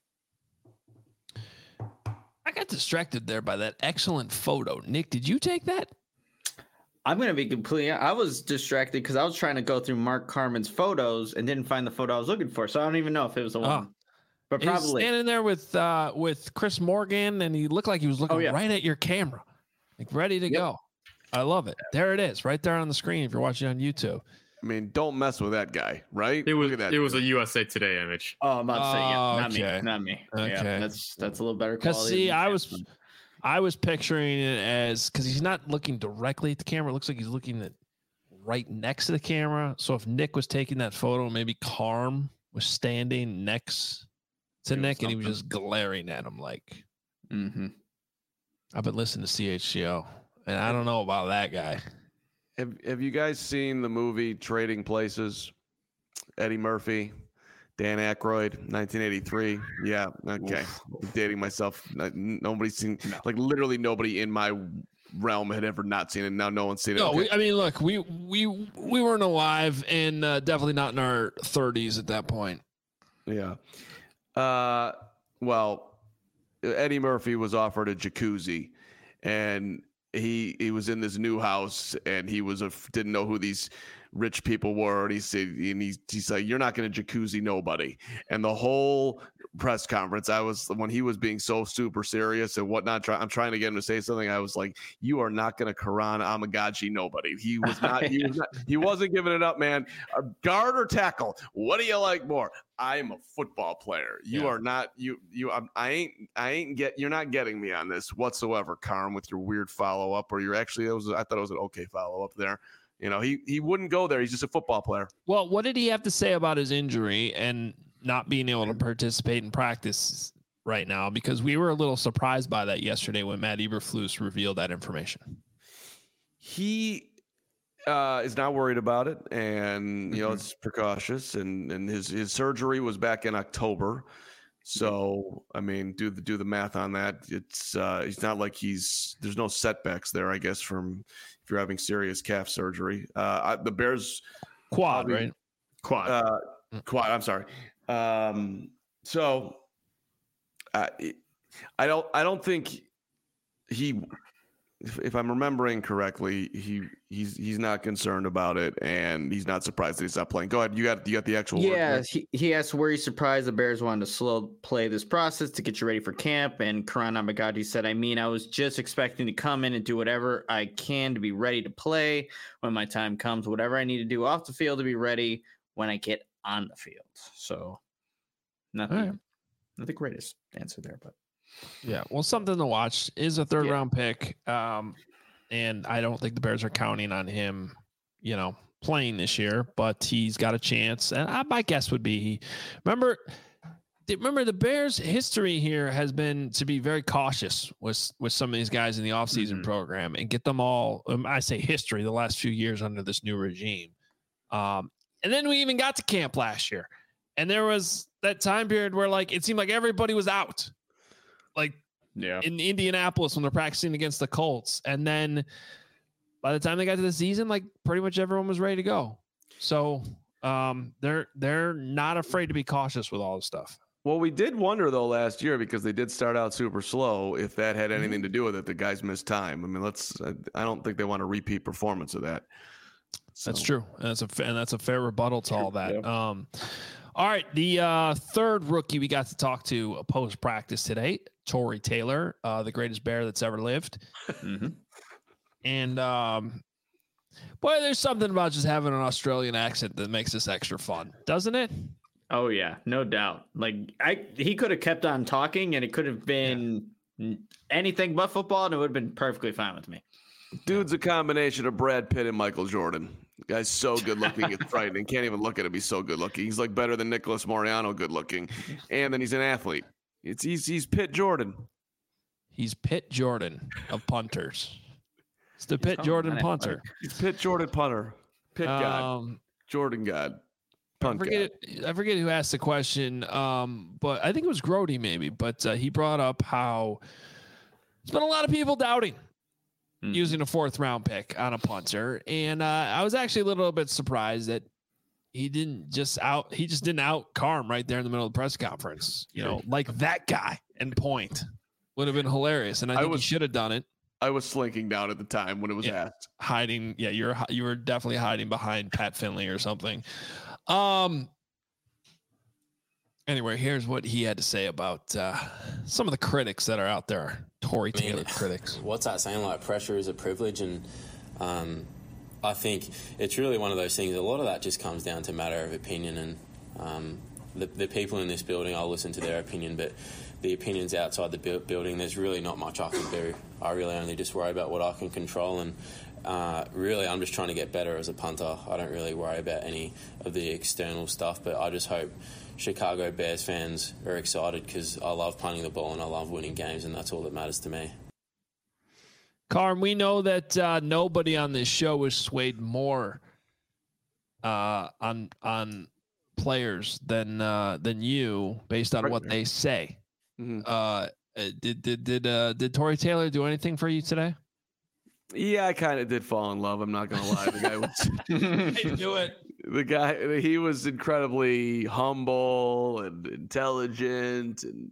I got distracted there by that excellent photo. Nick, did you take that? I'm going to be completely. I was distracted because I was trying to go through Mark Carman's photos and didn't find the photo I was looking for. So I don't even know if it was the one. Oh. But probably he's standing there with uh, with Chris Morgan, and he looked like he was looking oh, yeah. right at your camera, like ready to yep. go. I love it. There it is, right there on the screen. If you're watching on YouTube, I mean, don't mess with that guy, right? It was Look at that it was a U S A Today image. Oh, I'm about to say, yeah, not okay. me, not me. Okay, yeah, that's that's a little better quality. Because see, I was one. I was picturing it as because he's not looking directly at the camera. It looks like he's looking at right next to the camera. So if Nick was taking that photo, maybe Carm was standing next to Nick, and he was just glaring at him like, mm-hmm. I've been listening to C H G O, and I don't know about that guy. Have Have you guys seen the movie Trading Places? Eddie Murphy, Dan Aykroyd, nineteen eighty-three. Yeah, okay. I'm dating myself. Nobody's seen, no. like literally nobody in my realm had ever not seen it. Now no one's seen it. No, okay. we, I mean, look, we we we weren't alive, and uh, definitely not in our thirties at that point. Yeah. Uh, well, Eddie Murphy was offered a jacuzzi, and he he was in this new house, and he was a, didn't know who these rich people were, and he said, and he's, he's like, you're not going to jacuzzi nobody. And the whole press conference, I was, when he was being so super serious and whatnot, try, I'm trying to get him to say something. I was like, you are not going to Quran Amagachi nobody. He was not, he was not, he wasn't giving it up, man. Uh, guard or tackle? What do you like more? I'm a football player. You yeah. are not, you, you, I'm, I ain't, I ain't get, you're not getting me on this whatsoever, Carm, with your weird follow up, or you're actually, it was, I thought it was an okay follow up there. You know, he, he wouldn't go there. He's just a football player. Well, what did he have to say about his injury and not being able to participate in practice right now? Because we were a little surprised by that yesterday when Matt Eberflus revealed that information. He uh, is not worried about it, and, you mm-hmm. know, it's precautious, and, and his, his surgery was back in October. So, I mean, do the, do the math on that. It's, uh, it's not like he's, there's no setbacks there, I guess, from, if you're having serious calf surgery. Uh, I, the Bears quad, probably, right? Quad, uh, quad. I'm sorry. Um, so uh, I don't, I don't think he, if, if I'm remembering correctly, he, he's, he's not concerned about it, and he's not surprised that he's not playing. Go ahead. You got, you got the actual. Yeah. word he, he asked where he's surprised the Bears wanted to slow play this process to get you ready for camp. And Quran Amagachi said, I mean, I was just expecting to come in and do whatever I can to be ready to play when my time comes, whatever I need to do off the field to be ready when I get on the field. So not the, right. not the greatest answer there, but yeah, well, something to watch. Is a third yeah. round pick. Um, and I don't think the Bears are counting on him, you know, playing this year, but he's got a chance. And I, my guess would be, he, remember, remember the Bears' history here has been to be very cautious with, with some of these guys in the offseason mm-hmm. program and get them all. Um, I say history, the last few years under this new regime. Um, and then we even got to camp last year, and there was that time period where like, it seemed like everybody was out. Like yeah. in Indianapolis when they're practicing against the Colts. And then by the time they got to the season, like pretty much everyone was ready to go. So um, they're, they're not afraid to be cautious with all this stuff. Well, we did wonder though last year, because they did start out super slow, if that had anything mm-hmm. to do with it. The guys missed time. I mean, let's, I don't think they want a repeat performance of that. So. That's true. And that's a, and that's a fair rebuttal to all that. Yeah. Um, all right. The uh, third rookie we got to talk to post practice today, Tory Taylor, uh, the greatest Bear that's ever lived. Mm-hmm. And um, boy, there's something about just having an Australian accent that makes this extra fun, doesn't it? Oh yeah, no doubt. Like I, he could have kept on talking, and it could have been yeah. anything but football, and it would have been perfectly fine with me. Dude's a combination of Brad Pitt and Michael Jordan. The guy's so good looking, it's frightening. Can't even look at him. He's so good looking. He's like better than Nicholas Moriano good looking, and then he's an athlete. It's he's he's Pitt Jordan. He's Pitt Jordan of punters. It's the Pitt Jordan punter. He's Pitt Jordan punter. Pitt God. Um, Jordan God. Punt I forget. God. I forget who asked the question, um, but I think it was Grody maybe. But uh, he brought up how there's been a lot of people doubting mm. using a fourth round pick on a punter, and uh, I was actually a little bit surprised that he didn't just out. He just didn't out Carm right there in the middle of the press conference. You know, like that guy and point would have been hilarious, and I think I was, he should have done it. I was slinking down at the time when it was yeah, asked. Hiding, yeah, you're you were definitely hiding behind Pat Finley or something. Um. Anyway, here's what he had to say about uh, some of the critics that are out there. Tory I mean, Taylor critics. What's that saying? Like, pressure is a privilege, and um, I think it's really one of those things. A lot of that just comes down to matter of opinion, and um, the, the people in this building, I'll listen to their opinion, but the opinions outside the bu- building, there's really not much I can do. I really only just worry about what I can control, and uh, really I'm just trying to get better as a punter. I don't really worry about any of the external stuff, but I just hope Chicago Bears fans are excited, because I love punting the ball and I love winning games, and that's all that matters to me. Carm, we know that uh, nobody on this show is swayed more uh, on on players than uh, than you, based on what they say. Mm-hmm. Uh, did did did uh, did Tory Taylor do anything for you today? Yeah, I kind of did fall in love. I'm not gonna lie. The guy was. I knew it. The guy, he was incredibly humble and intelligent, and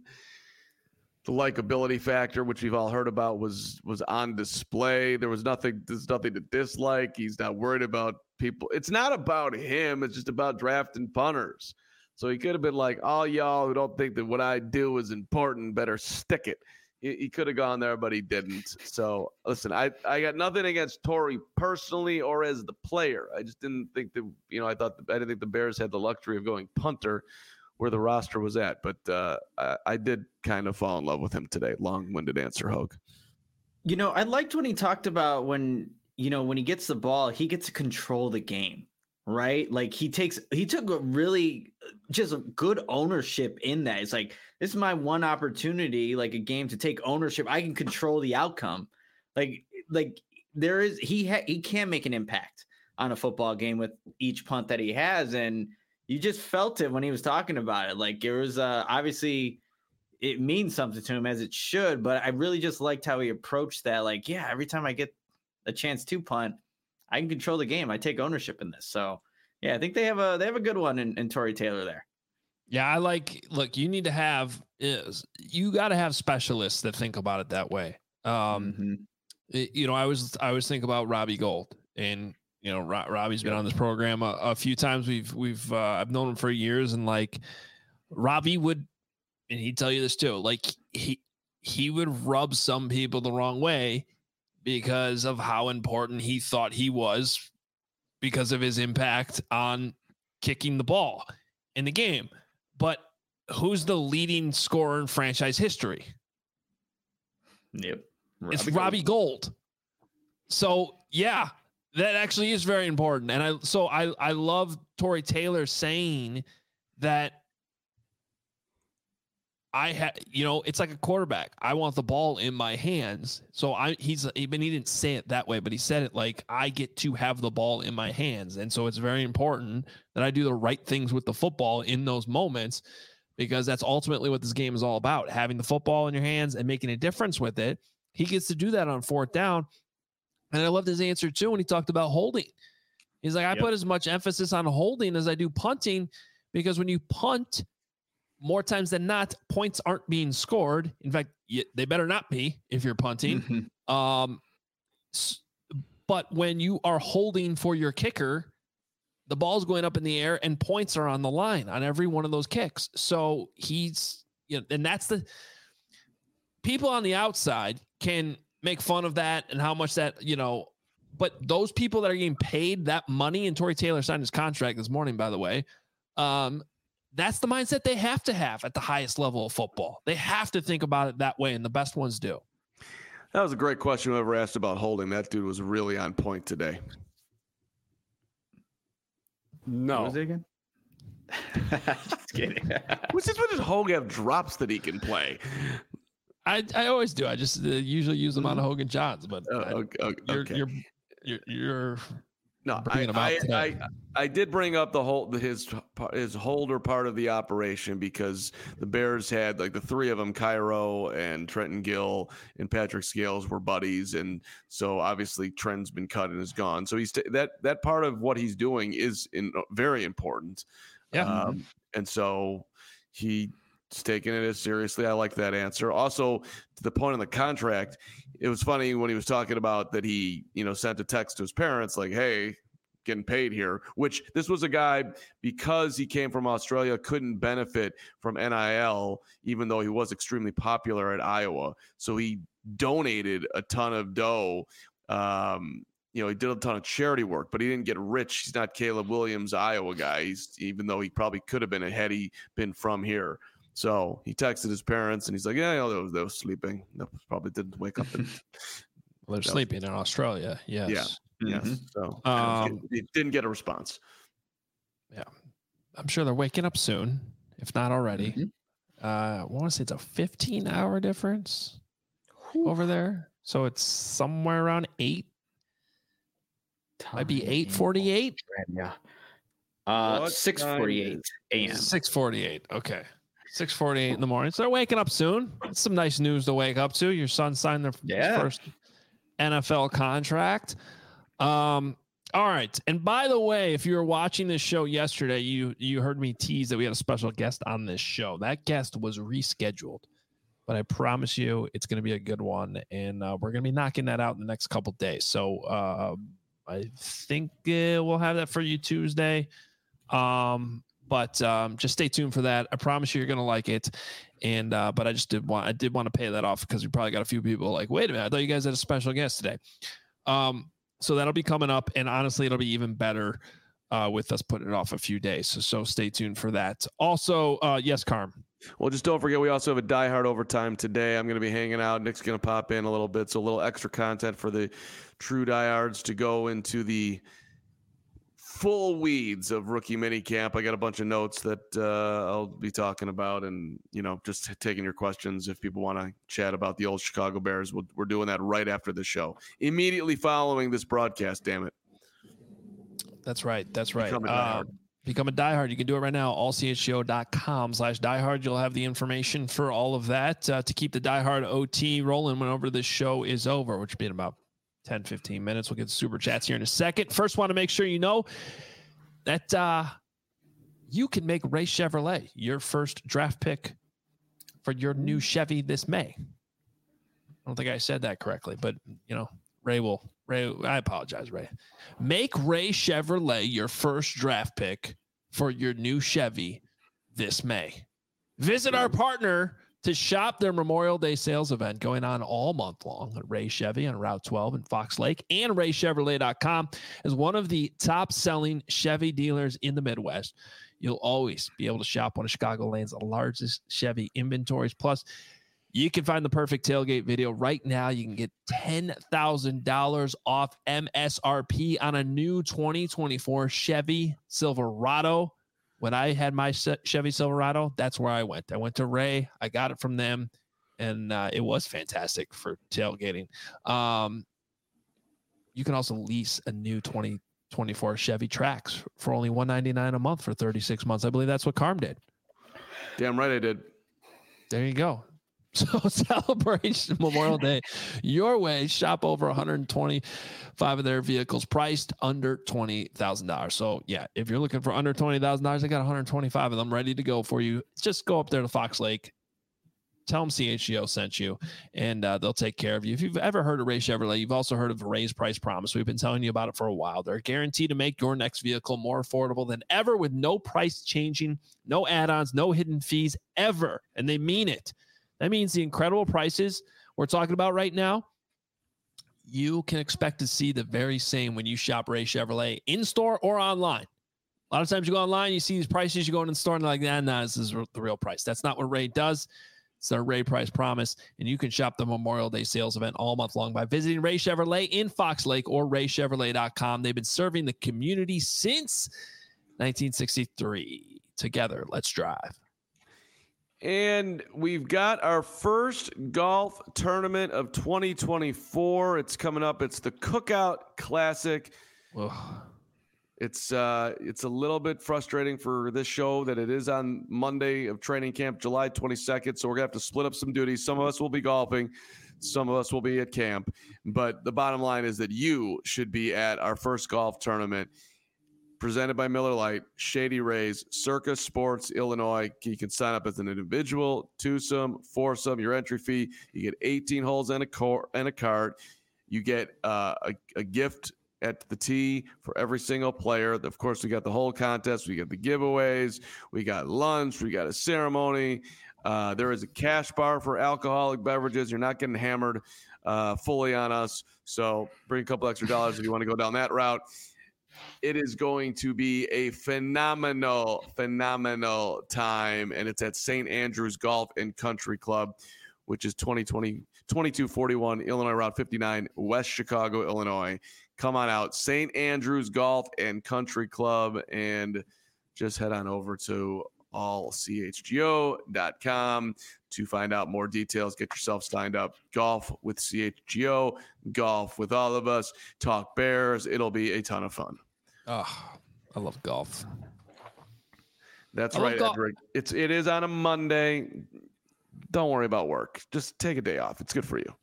the likability factor, which we've all heard about, was was on display. There was nothing. There's nothing to dislike. He's not worried about people. It's not about him. It's just about drafting punters. So he could have been like, all y'all who don't think that what I do is important better stick it. He, he could have gone there, but he didn't. So listen, I, I got nothing against Tory personally or as the player. I just didn't think that, you know, I thought, the, I didn't think the Bears had the luxury of going punter where the roster was at. But uh, I, I did kind of fall in love with him today. Long-winded answer, Hogue. You know, I liked when he talked about when, you know, when he gets the ball, he gets to control the game. Right? Like he takes, he took a really just a good ownership in that. It's like, this is my one opportunity, like a game to take ownership. I can control the outcome. Like, like there is, he, ha, he can make an impact on a football game with each punt that he has. And you just felt it when he was talking about it. Like it was uh, obviously it means something to him, as it should, but I really just liked how he approached that. Like, yeah, every time I get a chance to punt, I can control the game. I take ownership in this. So yeah, I think they have a they have a good one in, in Tory Taylor there. Yeah, I like. Look, you need to have is you got to have specialists that think about it that way. Um, mm-hmm. it, you know, I was I was thinking about Robbie Gould, and you know, Ro- Robbie's been yep. on this program a, a few times. We've we've uh, I've known him for years, and like Robbie would, and he'd tell you this too. Like he he would rub some people the wrong way because of how important he thought he was because of his impact on kicking the ball in the game. But who's the leading scorer in franchise history? Yep. Robbie it's Robbie Gould. Gould. So yeah, that actually is very important. And I, so I, I love Tory Taylor saying that I had, you know, it's like a quarterback. I want the ball in my hands. So I, he's, even he didn't say it that way, but he said it like, I get to have the ball in my hands. And so it's very important that I do the right things with the football in those moments, because that's ultimately what this game is all about. Having the football in your hands and making a difference with it. He gets to do that on fourth down. And I loved his answer too when he talked about holding. He's like, I yep. put as much emphasis on holding as I do punting, because when you punt, more times than not, points aren't being scored. In fact, they better not be if you're punting. Mm-hmm. Um, but when you are holding for your kicker, the ball's going up in the air and points are on the line on every one of those kicks. So he's, you know, and that's the people on the outside can make fun of that and how much that, you know, but those people that are getting paid that money, and Tory Taylor signed his contract this morning, by the way, um, that's the mindset they have to have at the highest level of football. They have to think about it that way, and the best ones do. That was a great question. Whoever asked about holding, that dude was really on point today. No. What was it again? Just kidding. What's this? What does Hogue have drops that he can play? I I always do. I just uh, usually use them on Hogan Johns, but uh, okay, okay. You're, you're you're you're. No, I I, I I did bring up the whole his his holder part of the operation, because the Bears had like the three of them, Cairo and Trenton Gill and Patrick Scales, were buddies, and so obviously Trent's been cut and is gone. So he's t- that that part of what he's doing is in, very important. Yeah, um, and so he's taking it as seriously. I like that answer. Also, to the point of the contract, it was funny when he was talking about that he, you know, sent a text to his parents like, hey, getting paid here, which this was a guy, because he came from Australia, couldn't benefit from N I L, even though he was extremely popular at Iowa. So he donated a ton of dough um, you know, he did a ton of charity work, but he didn't get rich. He's not Caleb Williams, Iowa guy. He's, even though he probably could have been had he been from here. So he texted his parents and he's like, yeah, you know, they, were, they were sleeping. They probably didn't wake up. And, well, they're no. sleeping in Australia. Yes. Yeah. Mm-hmm. Yes. So um, he didn't get a response. Yeah. I'm sure they're waking up soon, if not already. Mm-hmm. Uh, I want to say it's a fifteen hour difference Whew. over there. So it's somewhere around eight. Might be eight forty-eight. Yeah. Uh, six forty-eight a.m. six forty-eight. Okay. six forty-eight in the morning. So they're waking up soon. It's some nice news to wake up to. Your son signed their yeah. first N F L contract. Um, all right. And by the way, if you were watching this show yesterday, you you heard me tease that we had a special guest on this show. That guest was rescheduled, but I promise you it's going to be a good one. And uh, we're going to be knocking that out in the next couple days. So uh, I think uh, we'll have that for you Tuesday. Um, but um, just stay tuned for that. I promise you you're going to like it. And uh, but I just did want I did want to pay that off because we probably got a few people like, wait a minute, I thought you guys had a special guest today. Um, so that'll be coming up, and honestly, it'll be even better uh, with us putting it off a few days. So, so stay tuned for that. Also, uh, yes, Carm. Well, just don't forget, we also have a Die Hard Overtime today. I'm going to be hanging out. Nick's going to pop in a little bit, so a little extra content for the true diehards to go into the full weeds of rookie minicamp. I got a bunch of notes that uh, I'll be talking about, and you know, just taking your questions if people want to chat about the old Chicago Bears. We'll, we're doing that right after the show, immediately following this broadcast. Damn it! That's right. That's right. Become a diehard. Uh, become a diehard. You can do it right now. all c h g o dot com slash diehard. You'll have the information for all of that uh, to keep the diehard O T rolling whenever this show is over, which will be in about ten, fifteen minutes. We'll get the super chats here in a second. First, want to make sure you know that uh, you can make Ray Chevrolet your first draft pick for your new Chevy this May. I don't think I said that correctly, but, you know, Ray will. Ray, I apologize, Ray. Make Ray Chevrolet your first draft pick for your new Chevy this May. Visit our partner to shop their Memorial Day sales event going on all month long at Ray Chevy on Route twelve in Fox Lake, and ray chevrolet dot com is one of the top-selling Chevy dealers in the Midwest. You'll always be able to shop one of Chicagoland's largest Chevy inventories. Plus, you can find the perfect tailgate video right now. You can get ten thousand dollars off M S R P on a new twenty twenty-four Chevy Silverado. When I had my Chevy Silverado, that's where I went. I went to Ray. I got it from them, and uh, it was fantastic for tailgating. Um, you can also lease a new twenty twenty-four Chevy Trax for only one hundred ninety-nine dollars a month for thirty-six months. I believe that's what Carm did. Damn right I did. There you go. So celebrate Memorial Day your way. Shop over one hundred twenty-five of their vehicles priced under twenty thousand dollars. So, yeah, if you're looking for under twenty thousand dollars, I got one hundred twenty-five of them ready to go for you. Just go up there to Fox Lake. Tell them C H G O sent you, and uh, they'll take care of you. If you've ever heard of Ray Chevrolet, you've also heard of Ray's Price Promise. We've been telling you about it for a while. They're guaranteed to make your next vehicle more affordable than ever with no price changing, no add-ons, no hidden fees ever, and they mean it. That means the incredible prices we're talking about right now, you can expect to see the very same when you shop Ray Chevrolet in-store or online. A lot of times you go online, you see these prices, you go in the store and they're like, nah, nah, this is the real price. That's not what Ray does. It's their Ray Price Promise, and you can shop the Memorial Day sales event all month long by visiting Ray Chevrolet in Fox Lake or ray chevrolet dot com. They've been serving the community since nineteen sixty-three. Together, let's drive. And we've got our first golf tournament of twenty twenty-four. It's coming up. It's the Cookout Classic. Ugh. It's uh, it's a little bit frustrating for this show that it is on Monday of training camp, July twenty-second. So we're going to have to split up some duties. Some of us will be golfing. Some of us will be at camp. But the bottom line is that you should be at our first golf tournament. Presented by Miller Lite, Shady Rays, Circus Sports, Illinois. You can sign up as an individual, twosome, foursome. Your entry fee, you get eighteen holes and a cor- and a cart. You get uh, a, a gift at the tee for every single player. Of course, we got the whole contest. We got the giveaways. We got lunch. We got a ceremony. Uh, there is a cash bar for alcoholic beverages. You're not getting hammered. uh, fully on us. So bring a couple extra dollars if you want to go down that route. It is going to be a phenomenal, phenomenal time, and it's at Saint Andrews Golf and Country Club, which is twenty twenty, twenty-two forty-one Illinois Route fifty-nine, West Chicago, Illinois. Come on out, Saint Andrews Golf and Country Club, and just head on over to all c h g o dot com to find out more details. Get yourself signed up. Golf with C H G O, golf with all of us, talk Bears. It'll be a ton of fun. Oh, I love golf. That's I right, golf. Edric. It's it is on a Monday. Don't worry about work. Just take a day off. It's good for you.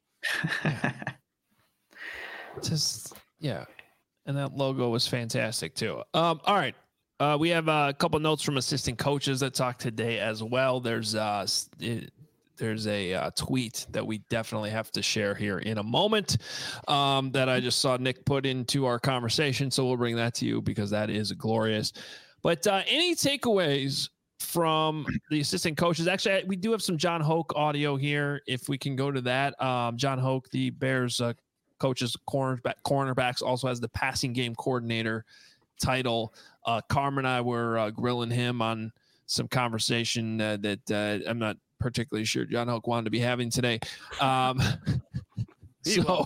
Just yeah, and that logo was fantastic too. Um, all right. Uh, we have uh, a couple notes from assistant coaches that talked today as well. There's uh, it, there's a uh, tweet that we definitely have to share here in a moment um, that I just saw Nick put into our conversation. So we'll bring that to you because that is glorious. But uh, any takeaways from the assistant coaches? Actually, we do have some John Hoke audio here. If we can go to that. Um, John Hoke, the Bears uh, coaches, cornerback, cornerbacks, also has the passing game coordinator title. Uh, Carmen and I were uh, grilling him on some conversation uh, that uh, I'm not particularly sure John Hoke wanted to be having today. Um, so,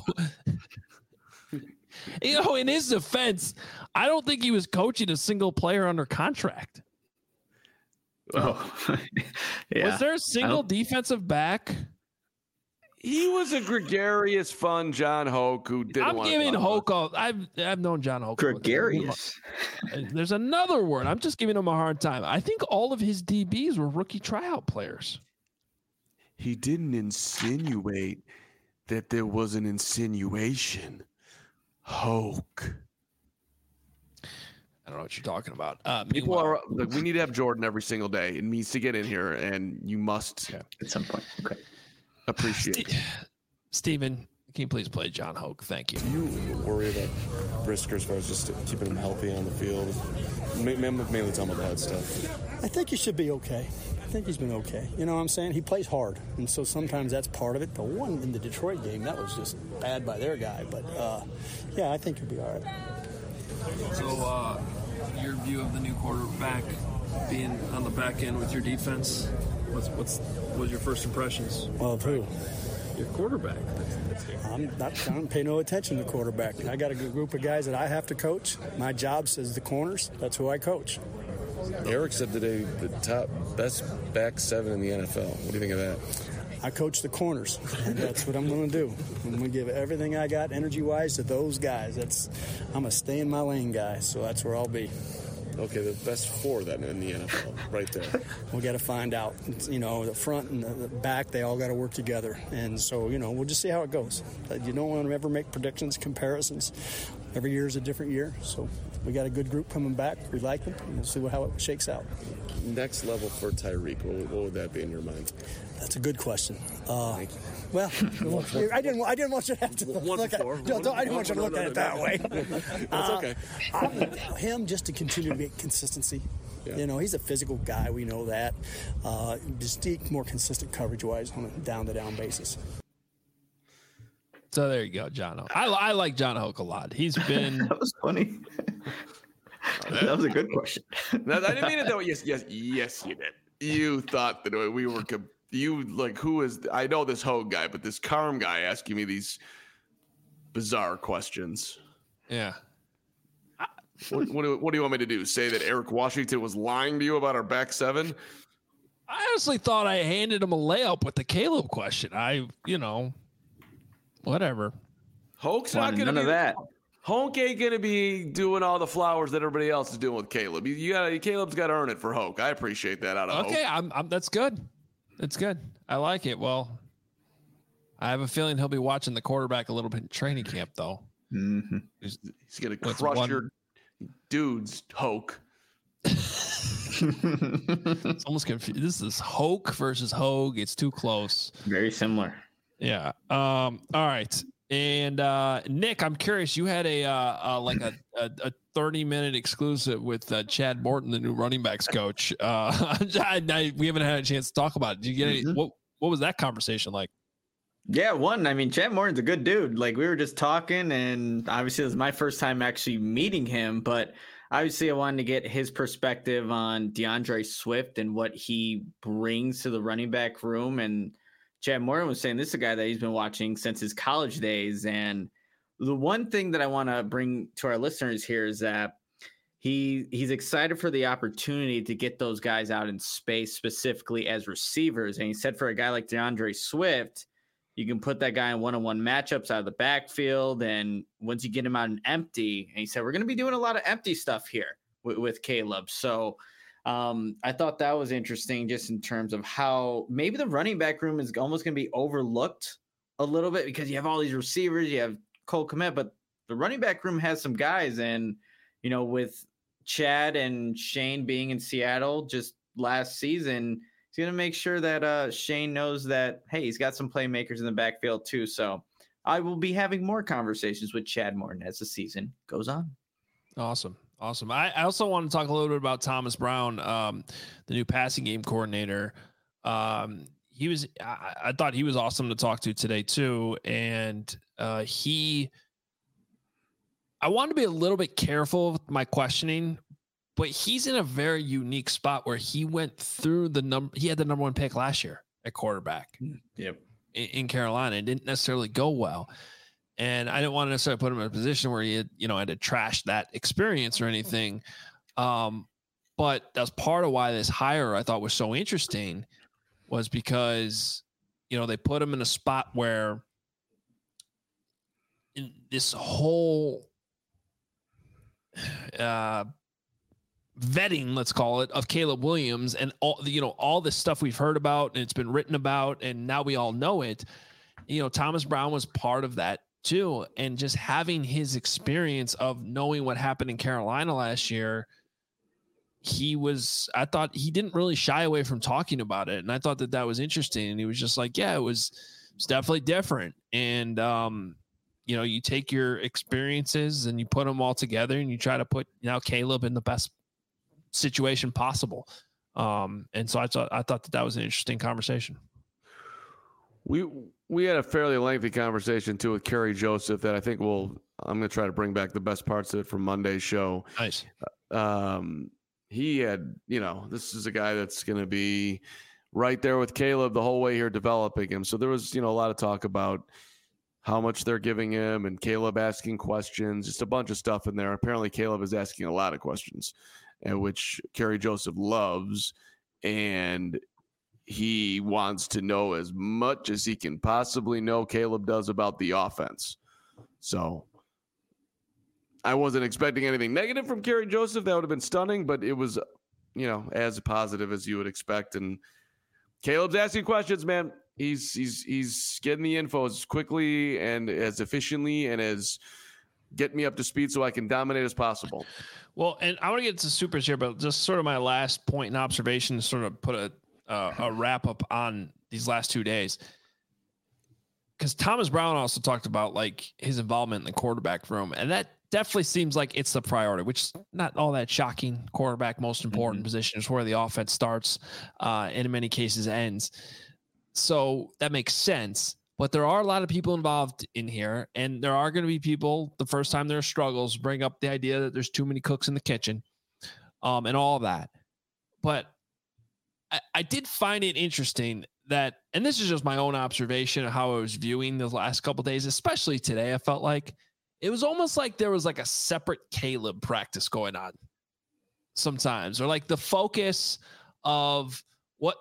you know, in his defense, I don't think he was coaching a single player under contract. Oh, yeah. Was there a single defensive back? He was a gregarious, fun John Hoke who didn't I'm want giving to Hoke all, I've I've known John Hoke. Gregarious. There's another word. I'm just giving him a hard time. I think all of his D Bs were rookie tryout players. He didn't insinuate that there was an insinuation. Hoke. I don't know what you're talking about. Uh, People are like, we need to have Jordan every single day. It needs to get in here, and you must okay. at some point. Okay. Appreciate St- it. Steven, can you please play John Hoke? Thank you. Do you worry about Brisker as far as just keeping him healthy on the field? Mainly, mainly talking about the head stuff. I think he should be okay. I think he's been okay. You know what I'm saying? He plays hard, and so sometimes that's part of it. The one in the Detroit game, that was just bad by their guy. But, uh, yeah, I think he'll be all right. So, uh, your view of the new quarterback being on the back end with your defense, what's what's what was your first impressions? Of who? Your quarterback. I'm not trying to pay no attention to quarterback. I got a good group of guys that I have to coach. My job says the corners. That's who I coach. Eric said today the top best back seven in the N F L. What do you think of that? I coach the corners, and that's what I'm going to do. I'm going to give everything I got energy-wise to those guys. That's I'm a stay-in-my-lane guy, so that's where I'll be. Okay, the best four then in the N F L, right there. We got to find out. It's, you know, the front and the back, they all got to work together. And so, you know, we'll just see how it goes. You don't want to ever make predictions, comparisons. Every year is a different year. So we got a good group coming back. We like them. And we'll see how it shakes out. Next level for Tyreek, what, what would that be in your mind? That's a good question. Uh, well, I didn't. I didn't want you to have to One look at. four. Don't, don't, I didn't want you to look at it that way. That's Uh, okay. I want him just to continue to get consistency. Yeah. You know, he's a physical guy. We know that. Uh, just more consistent coverage-wise on a down-to-down basis. So there you go, John Hoke. I, I like John Hoke a lot. He's been. That was funny. That was a good question. No, I didn't mean it that way. Yes, yes, yes, you did. You thought that we were com- you like who is I know this Hogue guy, but this Carm guy asking me these bizarre questions. Yeah. What, what, do, what do you want me to do? Say that Eric Washington was lying to you about our back seven? I honestly thought I handed him a layup with the Caleb question. I, you know, whatever. Hoke's not Wanted going to none be of that. Hoke ain't going to be doing all the flowers that everybody else is doing with Caleb. You, you got Caleb's got to earn it for Hoke. I appreciate that out of Okay, Hoke. I'm, I'm. That's good. That's good. I like it. Well, I have a feeling he'll be watching the quarterback a little bit in training camp, though. Mm-hmm. He's, he's going to What's crush one- your dudes, Hoke. It's almost confused. This is Hoke versus Hogue. It's too close. Very similar. Yeah. Um. All right. And uh, Nick, I'm curious. You had a uh, uh like a, a a thirty minute exclusive with uh, Chad Morton, the new running backs coach. Uh, I, I, we haven't had a chance to talk about it. Did you get any? Mhm. What What was that conversation like? Yeah, one. I mean, Chad Morton's a good dude. Like, we were just talking, and obviously it was my first time actually meeting him, but obviously I wanted to get his perspective on DeAndre Swift and what he brings to the running back room. And Chad Morton was saying this is a guy that he's been watching since his college days. And the one thing that I want to bring to our listeners here is that he he's excited for the opportunity to get those guys out in space, specifically as receivers. And he said for a guy like DeAndre Swift, you can put that guy in one-on-one matchups out of the backfield, and once you get him out in empty, and he said, we're going to be doing a lot of empty stuff here with, with Caleb. So um, I thought that was interesting just in terms of how maybe the running back room is almost going to be overlooked a little bit because you have all these receivers, you have Cole Kmet, but the running back room has some guys. And, you know, with Chad and Shane being in Seattle just last season, he's going to make sure that uh, Shane knows that, hey, he's got some playmakers in the backfield too. So I will be having more conversations with Chad Morton as the season goes on. Awesome. Awesome. I, I also want to talk a little bit about Thomas Brown, um, the new passing game coordinator. Um, he was, I, I thought he was awesome to talk to today too. And uh, he, I want to be a little bit careful with my questioning, but he's in a very unique spot where he went through the number. He had the number one pick last year at quarterback. Yep. In, in Carolina. It didn't necessarily go well. And I didn't want to necessarily put him in a position where he had, you know, had to trash that experience or anything. Um, but that's part of why this hire I thought was so interesting was because, you know, they put him in a spot where in this whole, uh, vetting, let's call it, of Caleb Williams and all the, you know, all this stuff we've heard about and it's been written about and now we all know it. You know, Thomas Brown was part of that too. And just having his experience of knowing what happened in Carolina last year, he was, I thought he didn't really shy away from talking about it. And I thought that that was interesting. And he was just like, yeah, it was, it was definitely different. And, um, you know, you take your experiences and you put them all together and you try to put now Caleb in the best situation possible. Um, and so I thought, I thought that that was an interesting conversation. We, we had a fairly lengthy conversation too with Kerry Joseph that I think we'll, I'm going to try to bring back the best parts of it from Monday's show. Nice. Um, he had, you know, this is a guy that's going to be right there with Caleb the whole way here developing him. So there was, you know, a lot of talk about how much they're giving him and Caleb asking questions, just a bunch of stuff in there. Apparently Caleb is asking a lot of questions, and which Kerry Joseph loves. And he wants to know as much as he can possibly know Caleb does about the offense. So I wasn't expecting anything negative from Kerry Joseph. That would have been stunning, but it was, you know, as positive as you would expect. And Caleb's asking questions, man. He's he's he's getting the info as quickly and as efficiently and as get me up to speed so I can dominate as possible. Well, and I want to get to supers here, but just sort of my last point and observation to sort of put a uh, a wrap up on these last two days. Because Thomas Brown also talked about like his involvement in the quarterback room, and that definitely seems like it's the priority, which is not all that shocking. Quarterback, most important mm-hmm. position, is where the offense starts, uh, and in many cases ends. So that makes sense. But there are a lot of people involved in here, and there are going to be people, the first time there are struggles, bring up the idea that there's too many cooks in the kitchen, um, and all of that. But I, I did find it interesting that, and this is just my own observation of how I was viewing the last couple of days, especially today, I felt like it was almost like there was like a separate Caleb practice going on sometimes, or like the focus of what,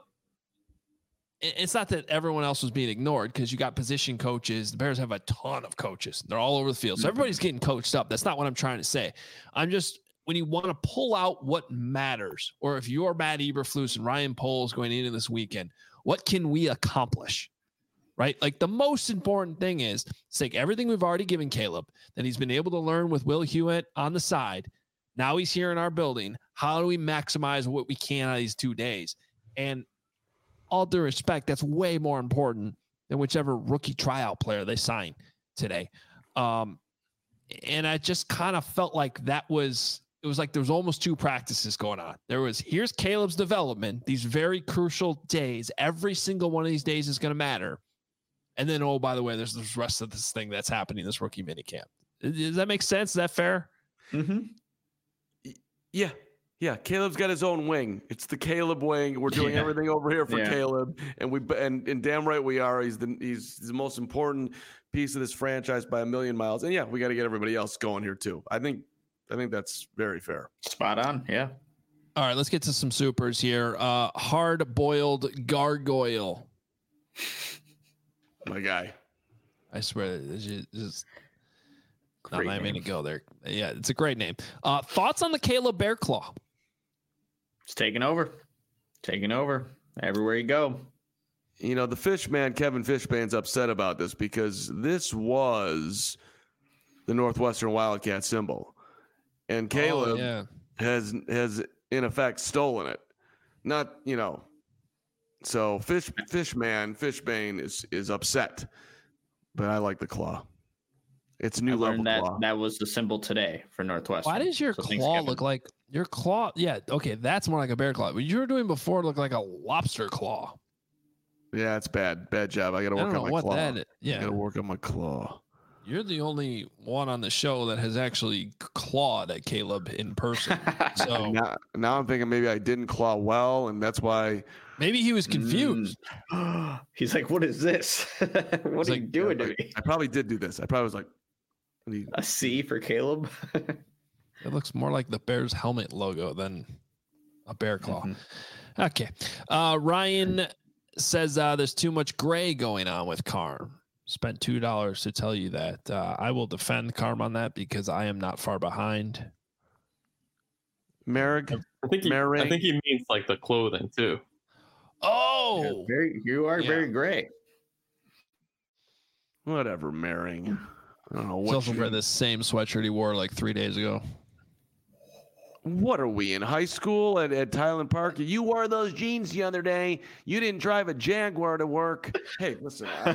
it's not that everyone else was being ignored because you got position coaches. The Bears have a ton of coaches. They're all over the field. So everybody's getting coached up. That's not what I'm trying to say. I'm just, when you want to pull out what matters, or if you're Matt Eberflus and Ryan Poles going into this weekend, what can we accomplish? Right? Like the most important thing is take everything we've already given Caleb that he's been able to learn with Will Hewitt on the side. Now he's here in our building. How do we maximize what we can out of these two days? And all due respect, that's way more important than whichever rookie tryout player they sign today. Um, and I just kind of felt like that was, it was like there was almost two practices going on. There was, here's Caleb's development, these very crucial days. Every single one of these days is going to matter. And then, oh, by the way, there's the rest of this thing that's happening, this rookie minicamp. Does that make sense? Is that fair? Mm-hmm. Yeah. Yeah. Caleb's got his own wing. It's the Caleb wing. We're doing Yeah. everything over here for Yeah. Caleb. And we and, and damn right we are. He's the he's the most important piece of this franchise by a million miles. And yeah, we got to get everybody else going here too. I think I think that's very fair. Spot on. Yeah. All right, let's get to some supers here. Uh, hard-boiled gargoyle. My guy. I swear, it's just, it's just Great not even name. to go there. Yeah, it's a great name. Uh, thoughts on the Caleb Bearclaw? It's taking over. Taking over everywhere you go. You know, the Fishman, Kevin Fishbane's upset about this because this was the Northwestern Wildcat symbol. And Caleb Oh, yeah. has has in effect stolen it. Not, you know. So Fish Fishman, Fishbane is is upset. But I like the claw. It's a new I level learned that claw. that was the symbol today for Northwestern. Why does your So thanks, claw Kevin. look like your claw? Yeah, okay, that's more like a bear claw. What you were doing before looked like a lobster claw. Yeah, it's bad. Bad job. I gotta I work don't on know my what claw. that is. I Yeah, gotta work on my claw. you're the only one on the show that has actually clawed at Caleb in person. So Now, now I'm thinking maybe I didn't claw well, and that's why maybe he was confused. Mm. He's like, what is this? what It's are like- you doing to me? I probably did do this. I probably was like, what do you- A C for Caleb? It looks more like the Bears helmet logo than a bear claw. Mhm. Okay. Uh, Ryan says uh, there's too much gray going on with Carm. Spent two dollars to tell you that. Uh, I will defend Carm on that because I am not far behind. Merrick? I think he, Mary? I think he means like the clothing too. Oh, Yeah, very, you are Yeah. very gray. Whatever, Merring. I don't know he's what. also you- wearing the same sweatshirt he wore like three days ago. What are we in high school at, at Tyland Park? You wore those jeans the other day. You didn't drive a Jaguar to work. Hey, listen. I,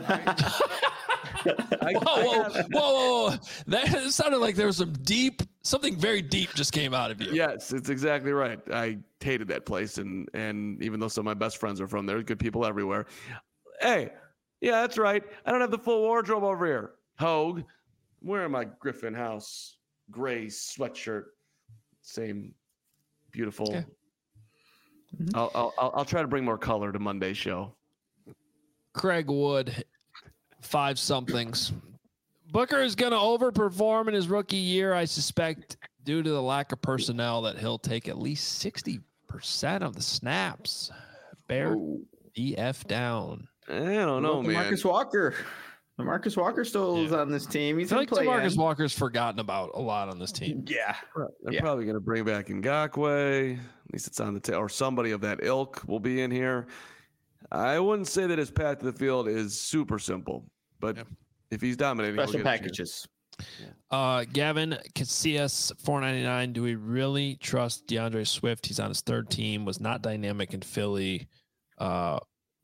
I, I, Whoa, I whoa, have- whoa, whoa, whoa. That sounded like there was some deep, something very deep just came out of you. Yes, it's exactly right. I hated that place, and and even though some of my best friends are from there, good people everywhere. Hey, yeah, that's right. I don't have the full wardrobe over here. Hogue, I'm wearing my Griffin House gray sweatshirt. Same beautiful. Okay. I'll, I'll I'll I'll try to bring more color to Monday's show. Craig Wood, five somethings. Booker is going to overperform in his rookie year, I suspect, due to the lack of personnel, that he'll take at least sixty percent of the snaps. Bear Whoa. the F down. I don't know, Well, man. Marcus Walker. Marcus Walker still is Yeah. on this team. I He's feel like playing. DeMarcus Walker's forgotten about a lot on this team. Yeah. They're Yeah. probably going to bring back Ngakwe. At least it's on the tail, or somebody of that ilk will be in here. I wouldn't say that his path to the field is super simple, but Yeah. if he's dominating, he'll Special get a chance. packages. Uh, Gavin Casillas, four ninety-nine. Do we really trust DeAndre Swift? He's on his third team, was not dynamic in Philly. Uh,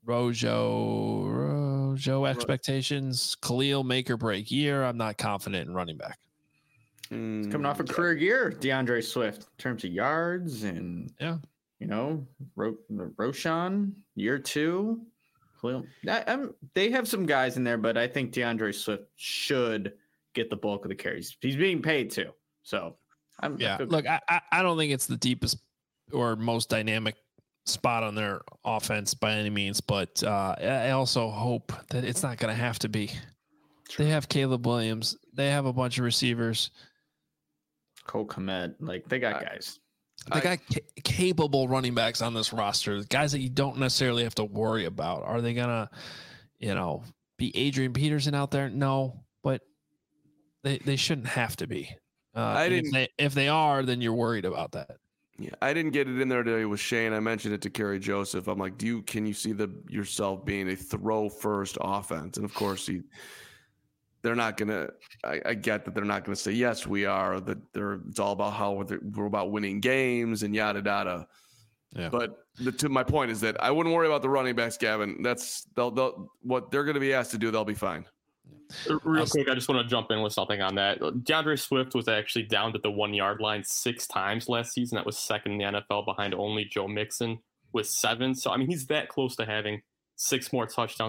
Rojo, Rojo expectations. Khalil make or break year. I'm not confident in running back. Mm, Coming off a career year, DeAndre Swift, in terms of yards and, Yeah. you know, Ro- Roshan, year two. Khalil. I, I'm, they have some guys in there, but I think DeAndre Swift should get the bulk of the carries. He's being paid too. So, I'm, I Yeah. feel- Look, I, I I don't think it's the deepest or most dynamic spot on their offense by any means, but uh, I also hope that it's not going to have to be. They have Caleb Williams. They have a bunch of receivers. Cole Kmet, like they got guys. They I- got ca- capable running backs on this roster, guys that you don't necessarily have to worry about. Are they gonna, you know, be Adrian Peterson out there? No, but they they shouldn't have to be. Uh, I and if didn't- they, if they are, then you're worried about that. Yeah, I didn't get it in there today with Shane. I mentioned it to Kerry Joseph. I'm like, do you can you see the yourself being a throw first offense? And of course, he they're not gonna. I, I get that they're not gonna say yes, we are. That they're it's all about how we're, we're about winning games and yada yada. Yeah. But the, to my point is that I wouldn't worry about the running backs, Gavin. That's they'll, they'll what they're going to be asked to do. They'll be fine. Real quick, I just want to jump in with something on that. DeAndre Swift was actually down to the one yard line six times last season. That was second in the N F L behind only Joe Mixon with seven. So I mean, he's that close to having six more touchdowns. That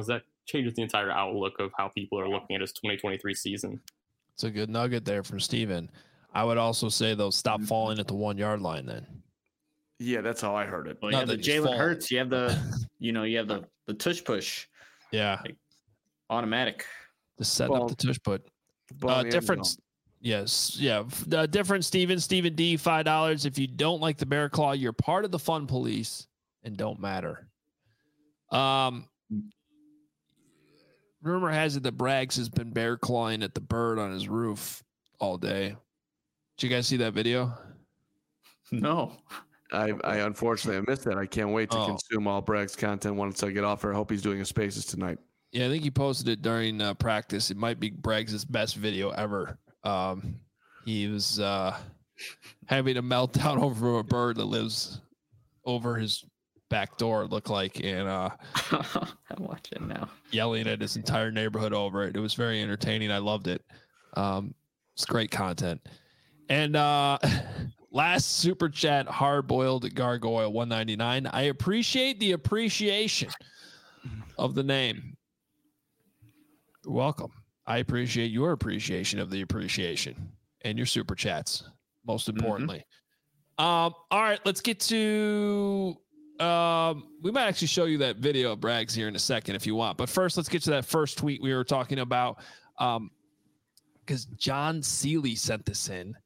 changes the entire outlook of how people are looking at his twenty twenty-three season. It's a good nugget there from Steven. I would also say, though, stop falling at the one yard line then. Yeah, that's how I heard it. Well, you have the Jalen Hurts. You have the, you know, you have the, the tush push. Yeah. Like, automatic. Just setting Ball, up the tush put. Uh, difference. Yes. Yeah. Uh, different, Steven. Steven D, five dollars. If you don't like the Bear Claw, you're part of the fun police and don't matter. Um, rumor has it that Braggs has been bear clawing at the bird on his roof all day. Did you guys see that video? No. I, I unfortunately I missed that. I can't wait to Oh. consume all Bragg's content once I get off here. I hope he's doing his spaces tonight. Yeah, I think he posted it during uh, practice. It might be Braggs' best video ever. Um, he was uh, having a meltdown over a bird that lives over his back door, it looked like, and uh, I'm watching now. Yelling at his entire neighborhood over it. It was very entertaining. I loved it. Um, it's great content. And uh, last super chat, hard boiled gargoyle one ninety-nine. I appreciate the appreciation of the name. You're welcome. I appreciate your appreciation of the appreciation and your super chats, most importantly. Mm-hmm. Um, all right, let's get to um, we might actually show you that video of Braggs here in a second if you want. But first, let's get to that first tweet we were talking about. Um, because John Seeley sent this in.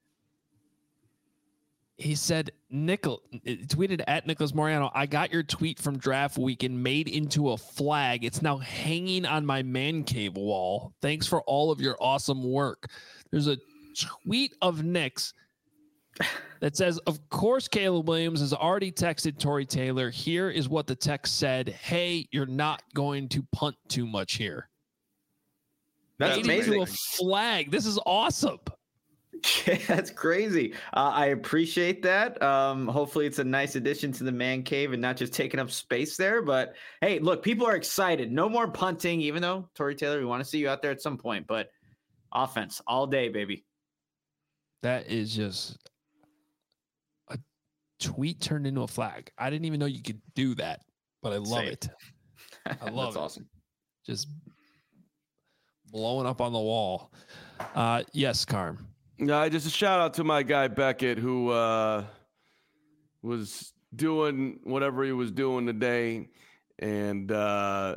He said, Nickel tweeted at Nicholas Moriano, I got your tweet from draft week and made into a flag. It's now hanging on my man cave wall. Thanks for all of your awesome work. There's a tweet of Nick's that says, of course, Caleb Williams has already texted Tory Taylor. Here is what the text said. Hey, you're not going to punt too much here. That's made amazing. into a flag. This is awesome. Yeah, that's crazy. Uh, I appreciate that. Um, hopefully it's a nice addition to the man cave and not just taking up space there. But hey, look, people are excited. No more punting, even though Tory Taylor, we want to see you out there at some point. But offense all day, baby. That is just a tweet turned into a flag. I didn't even know you could do that, but I love Same. it. I love that's it. awesome. Just blowing up on the wall. Uh, yes, Carm. Uh, just a shout out to my guy Beckett, who uh, was doing whatever he was doing today, and uh,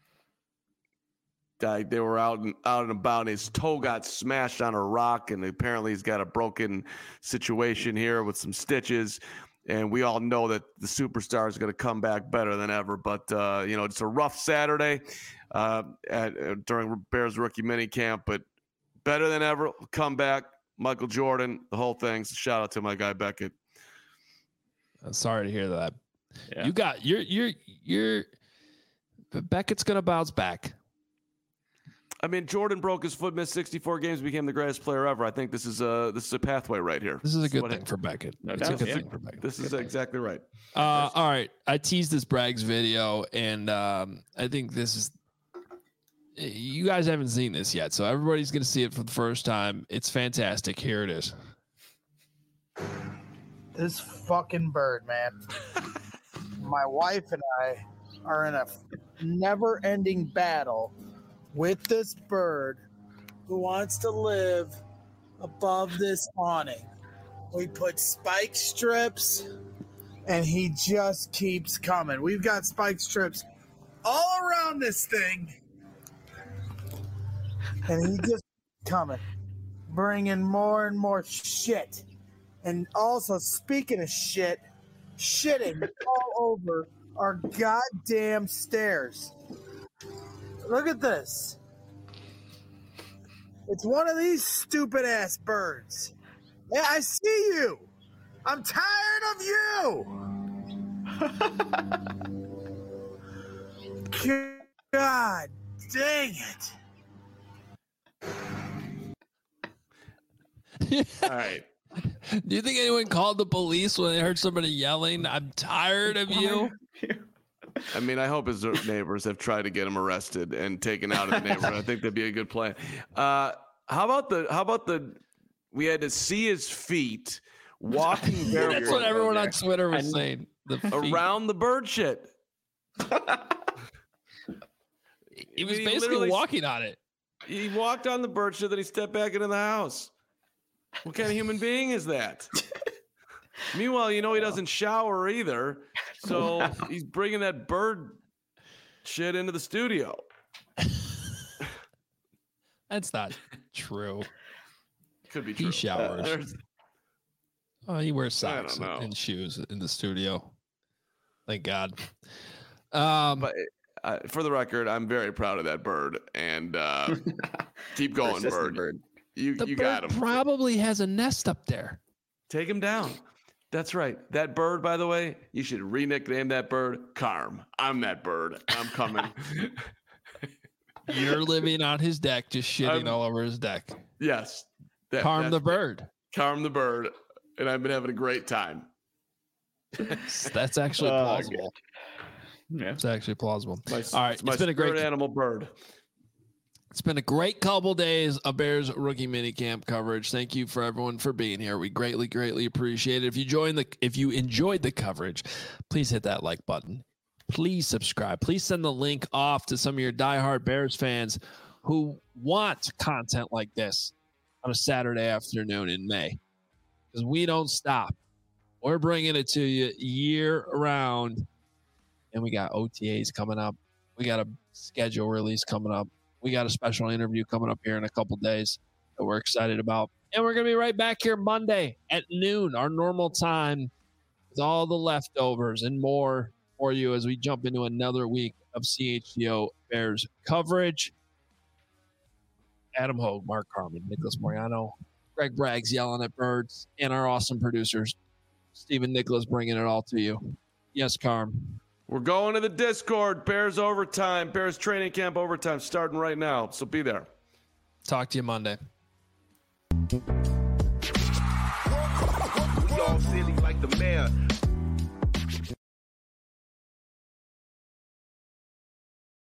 I, they were out and out and about. And his toe got smashed on a rock, and apparently he's got a broken situation here with some stitches. And we all know that the superstar is going to come back better than ever. But uh, you know, it's a rough Saturday uh, at, uh, during Bears rookie minicamp, but better than ever. Come back. Michael Jordan, the whole thing. So shout out to my guy Beckett. I'm sorry to hear that. Yeah. You got you're you're you're Beckett's gonna bounce back. I mean, Jordan broke his foot, missed sixty-four games, became the greatest player ever. I think this is a this is a pathway right here. This is a good what thing it, for Beckett. No it's doubt, a good yeah. thing for Beckett. This is exactly right. Uh, all right. I teased this Braggs video, and um, I think this is. You guys haven't seen this yet, so everybody's going to see it for the first time. It's fantastic. Here it is. This fucking bird, man. My wife and I are in a never-ending battle with this bird who wants to live above this awning. We put spike strips, and he just keeps coming. We've got spike strips all around this thing. And he just coming, bringing more and more shit. And also, speaking of shit, shitting all over our goddamn stairs. Look at this. It's one of these stupid-ass birds. Yeah, I see you. I'm tired of you. God dang it. All right. Do you think anyone called the police when they heard somebody yelling, I'm tired of you? I mean, I hope his neighbors have tried to get him arrested and taken out of the neighborhood. I think that'd be a good plan. Uh, how about the, how about the, we had to see his feet walking barefoot. That's what everyone on Twitter was saying. The feet. Around the bird shit. He was He basically literally- walking on it. He walked on the bird shit, then he stepped back into the house. What kind of human being is that? Meanwhile, you know he doesn't shower either, so Wow. he's bringing that bird shit into the studio. That's not true. Could be true. He showers. There's- Oh, he wears I don't socks know. and shoes in the studio. Thank God. Um, But uh, for the record, I'm very proud of that bird, and uh, keep going, Persistent bird. You the you bird got him. probably has a nest up there. Take him down. That's right. That bird, by the way, you should re-nickname that bird Carm. I'm that bird. I'm coming. You're living on his deck, just shitting I'm- all over his deck. Yes. That, Carm the that's- bird. Carm the bird. And I've been having a great time. That's actually Oh, plausible. Yeah. It's actually plausible. My, All right, it's my it's been a great spirit animal bird. It's been a great couple days of Bears rookie minicamp coverage. Thank you for everyone for being here. We greatly, greatly appreciate it. If you joined the, if you enjoyed the coverage, please hit that like button. Please subscribe. Please send the link off to some of your diehard Bears fans who want content like this on a Saturday afternoon in May, because we don't stop. We're bringing it to you year round, and we got O T As coming up. We got a schedule release coming up. We got a special interview coming up here in a couple days that we're excited about. And we're going to be right back here Monday at noon, our normal time, with all the leftovers and more for you as we jump into another week of C H G O Bears coverage. Adam Hogue, Mark Carman, Nicholas Moriano, Greg Braggs yelling at birds, and our awesome producers, Stephen Nicholas, bringing it all to you. Yes, Carm. We're going to the Discord. Bears overtime. Bears training camp overtime starting right now. So be there. Talk to you Monday. We all silly like the mayor.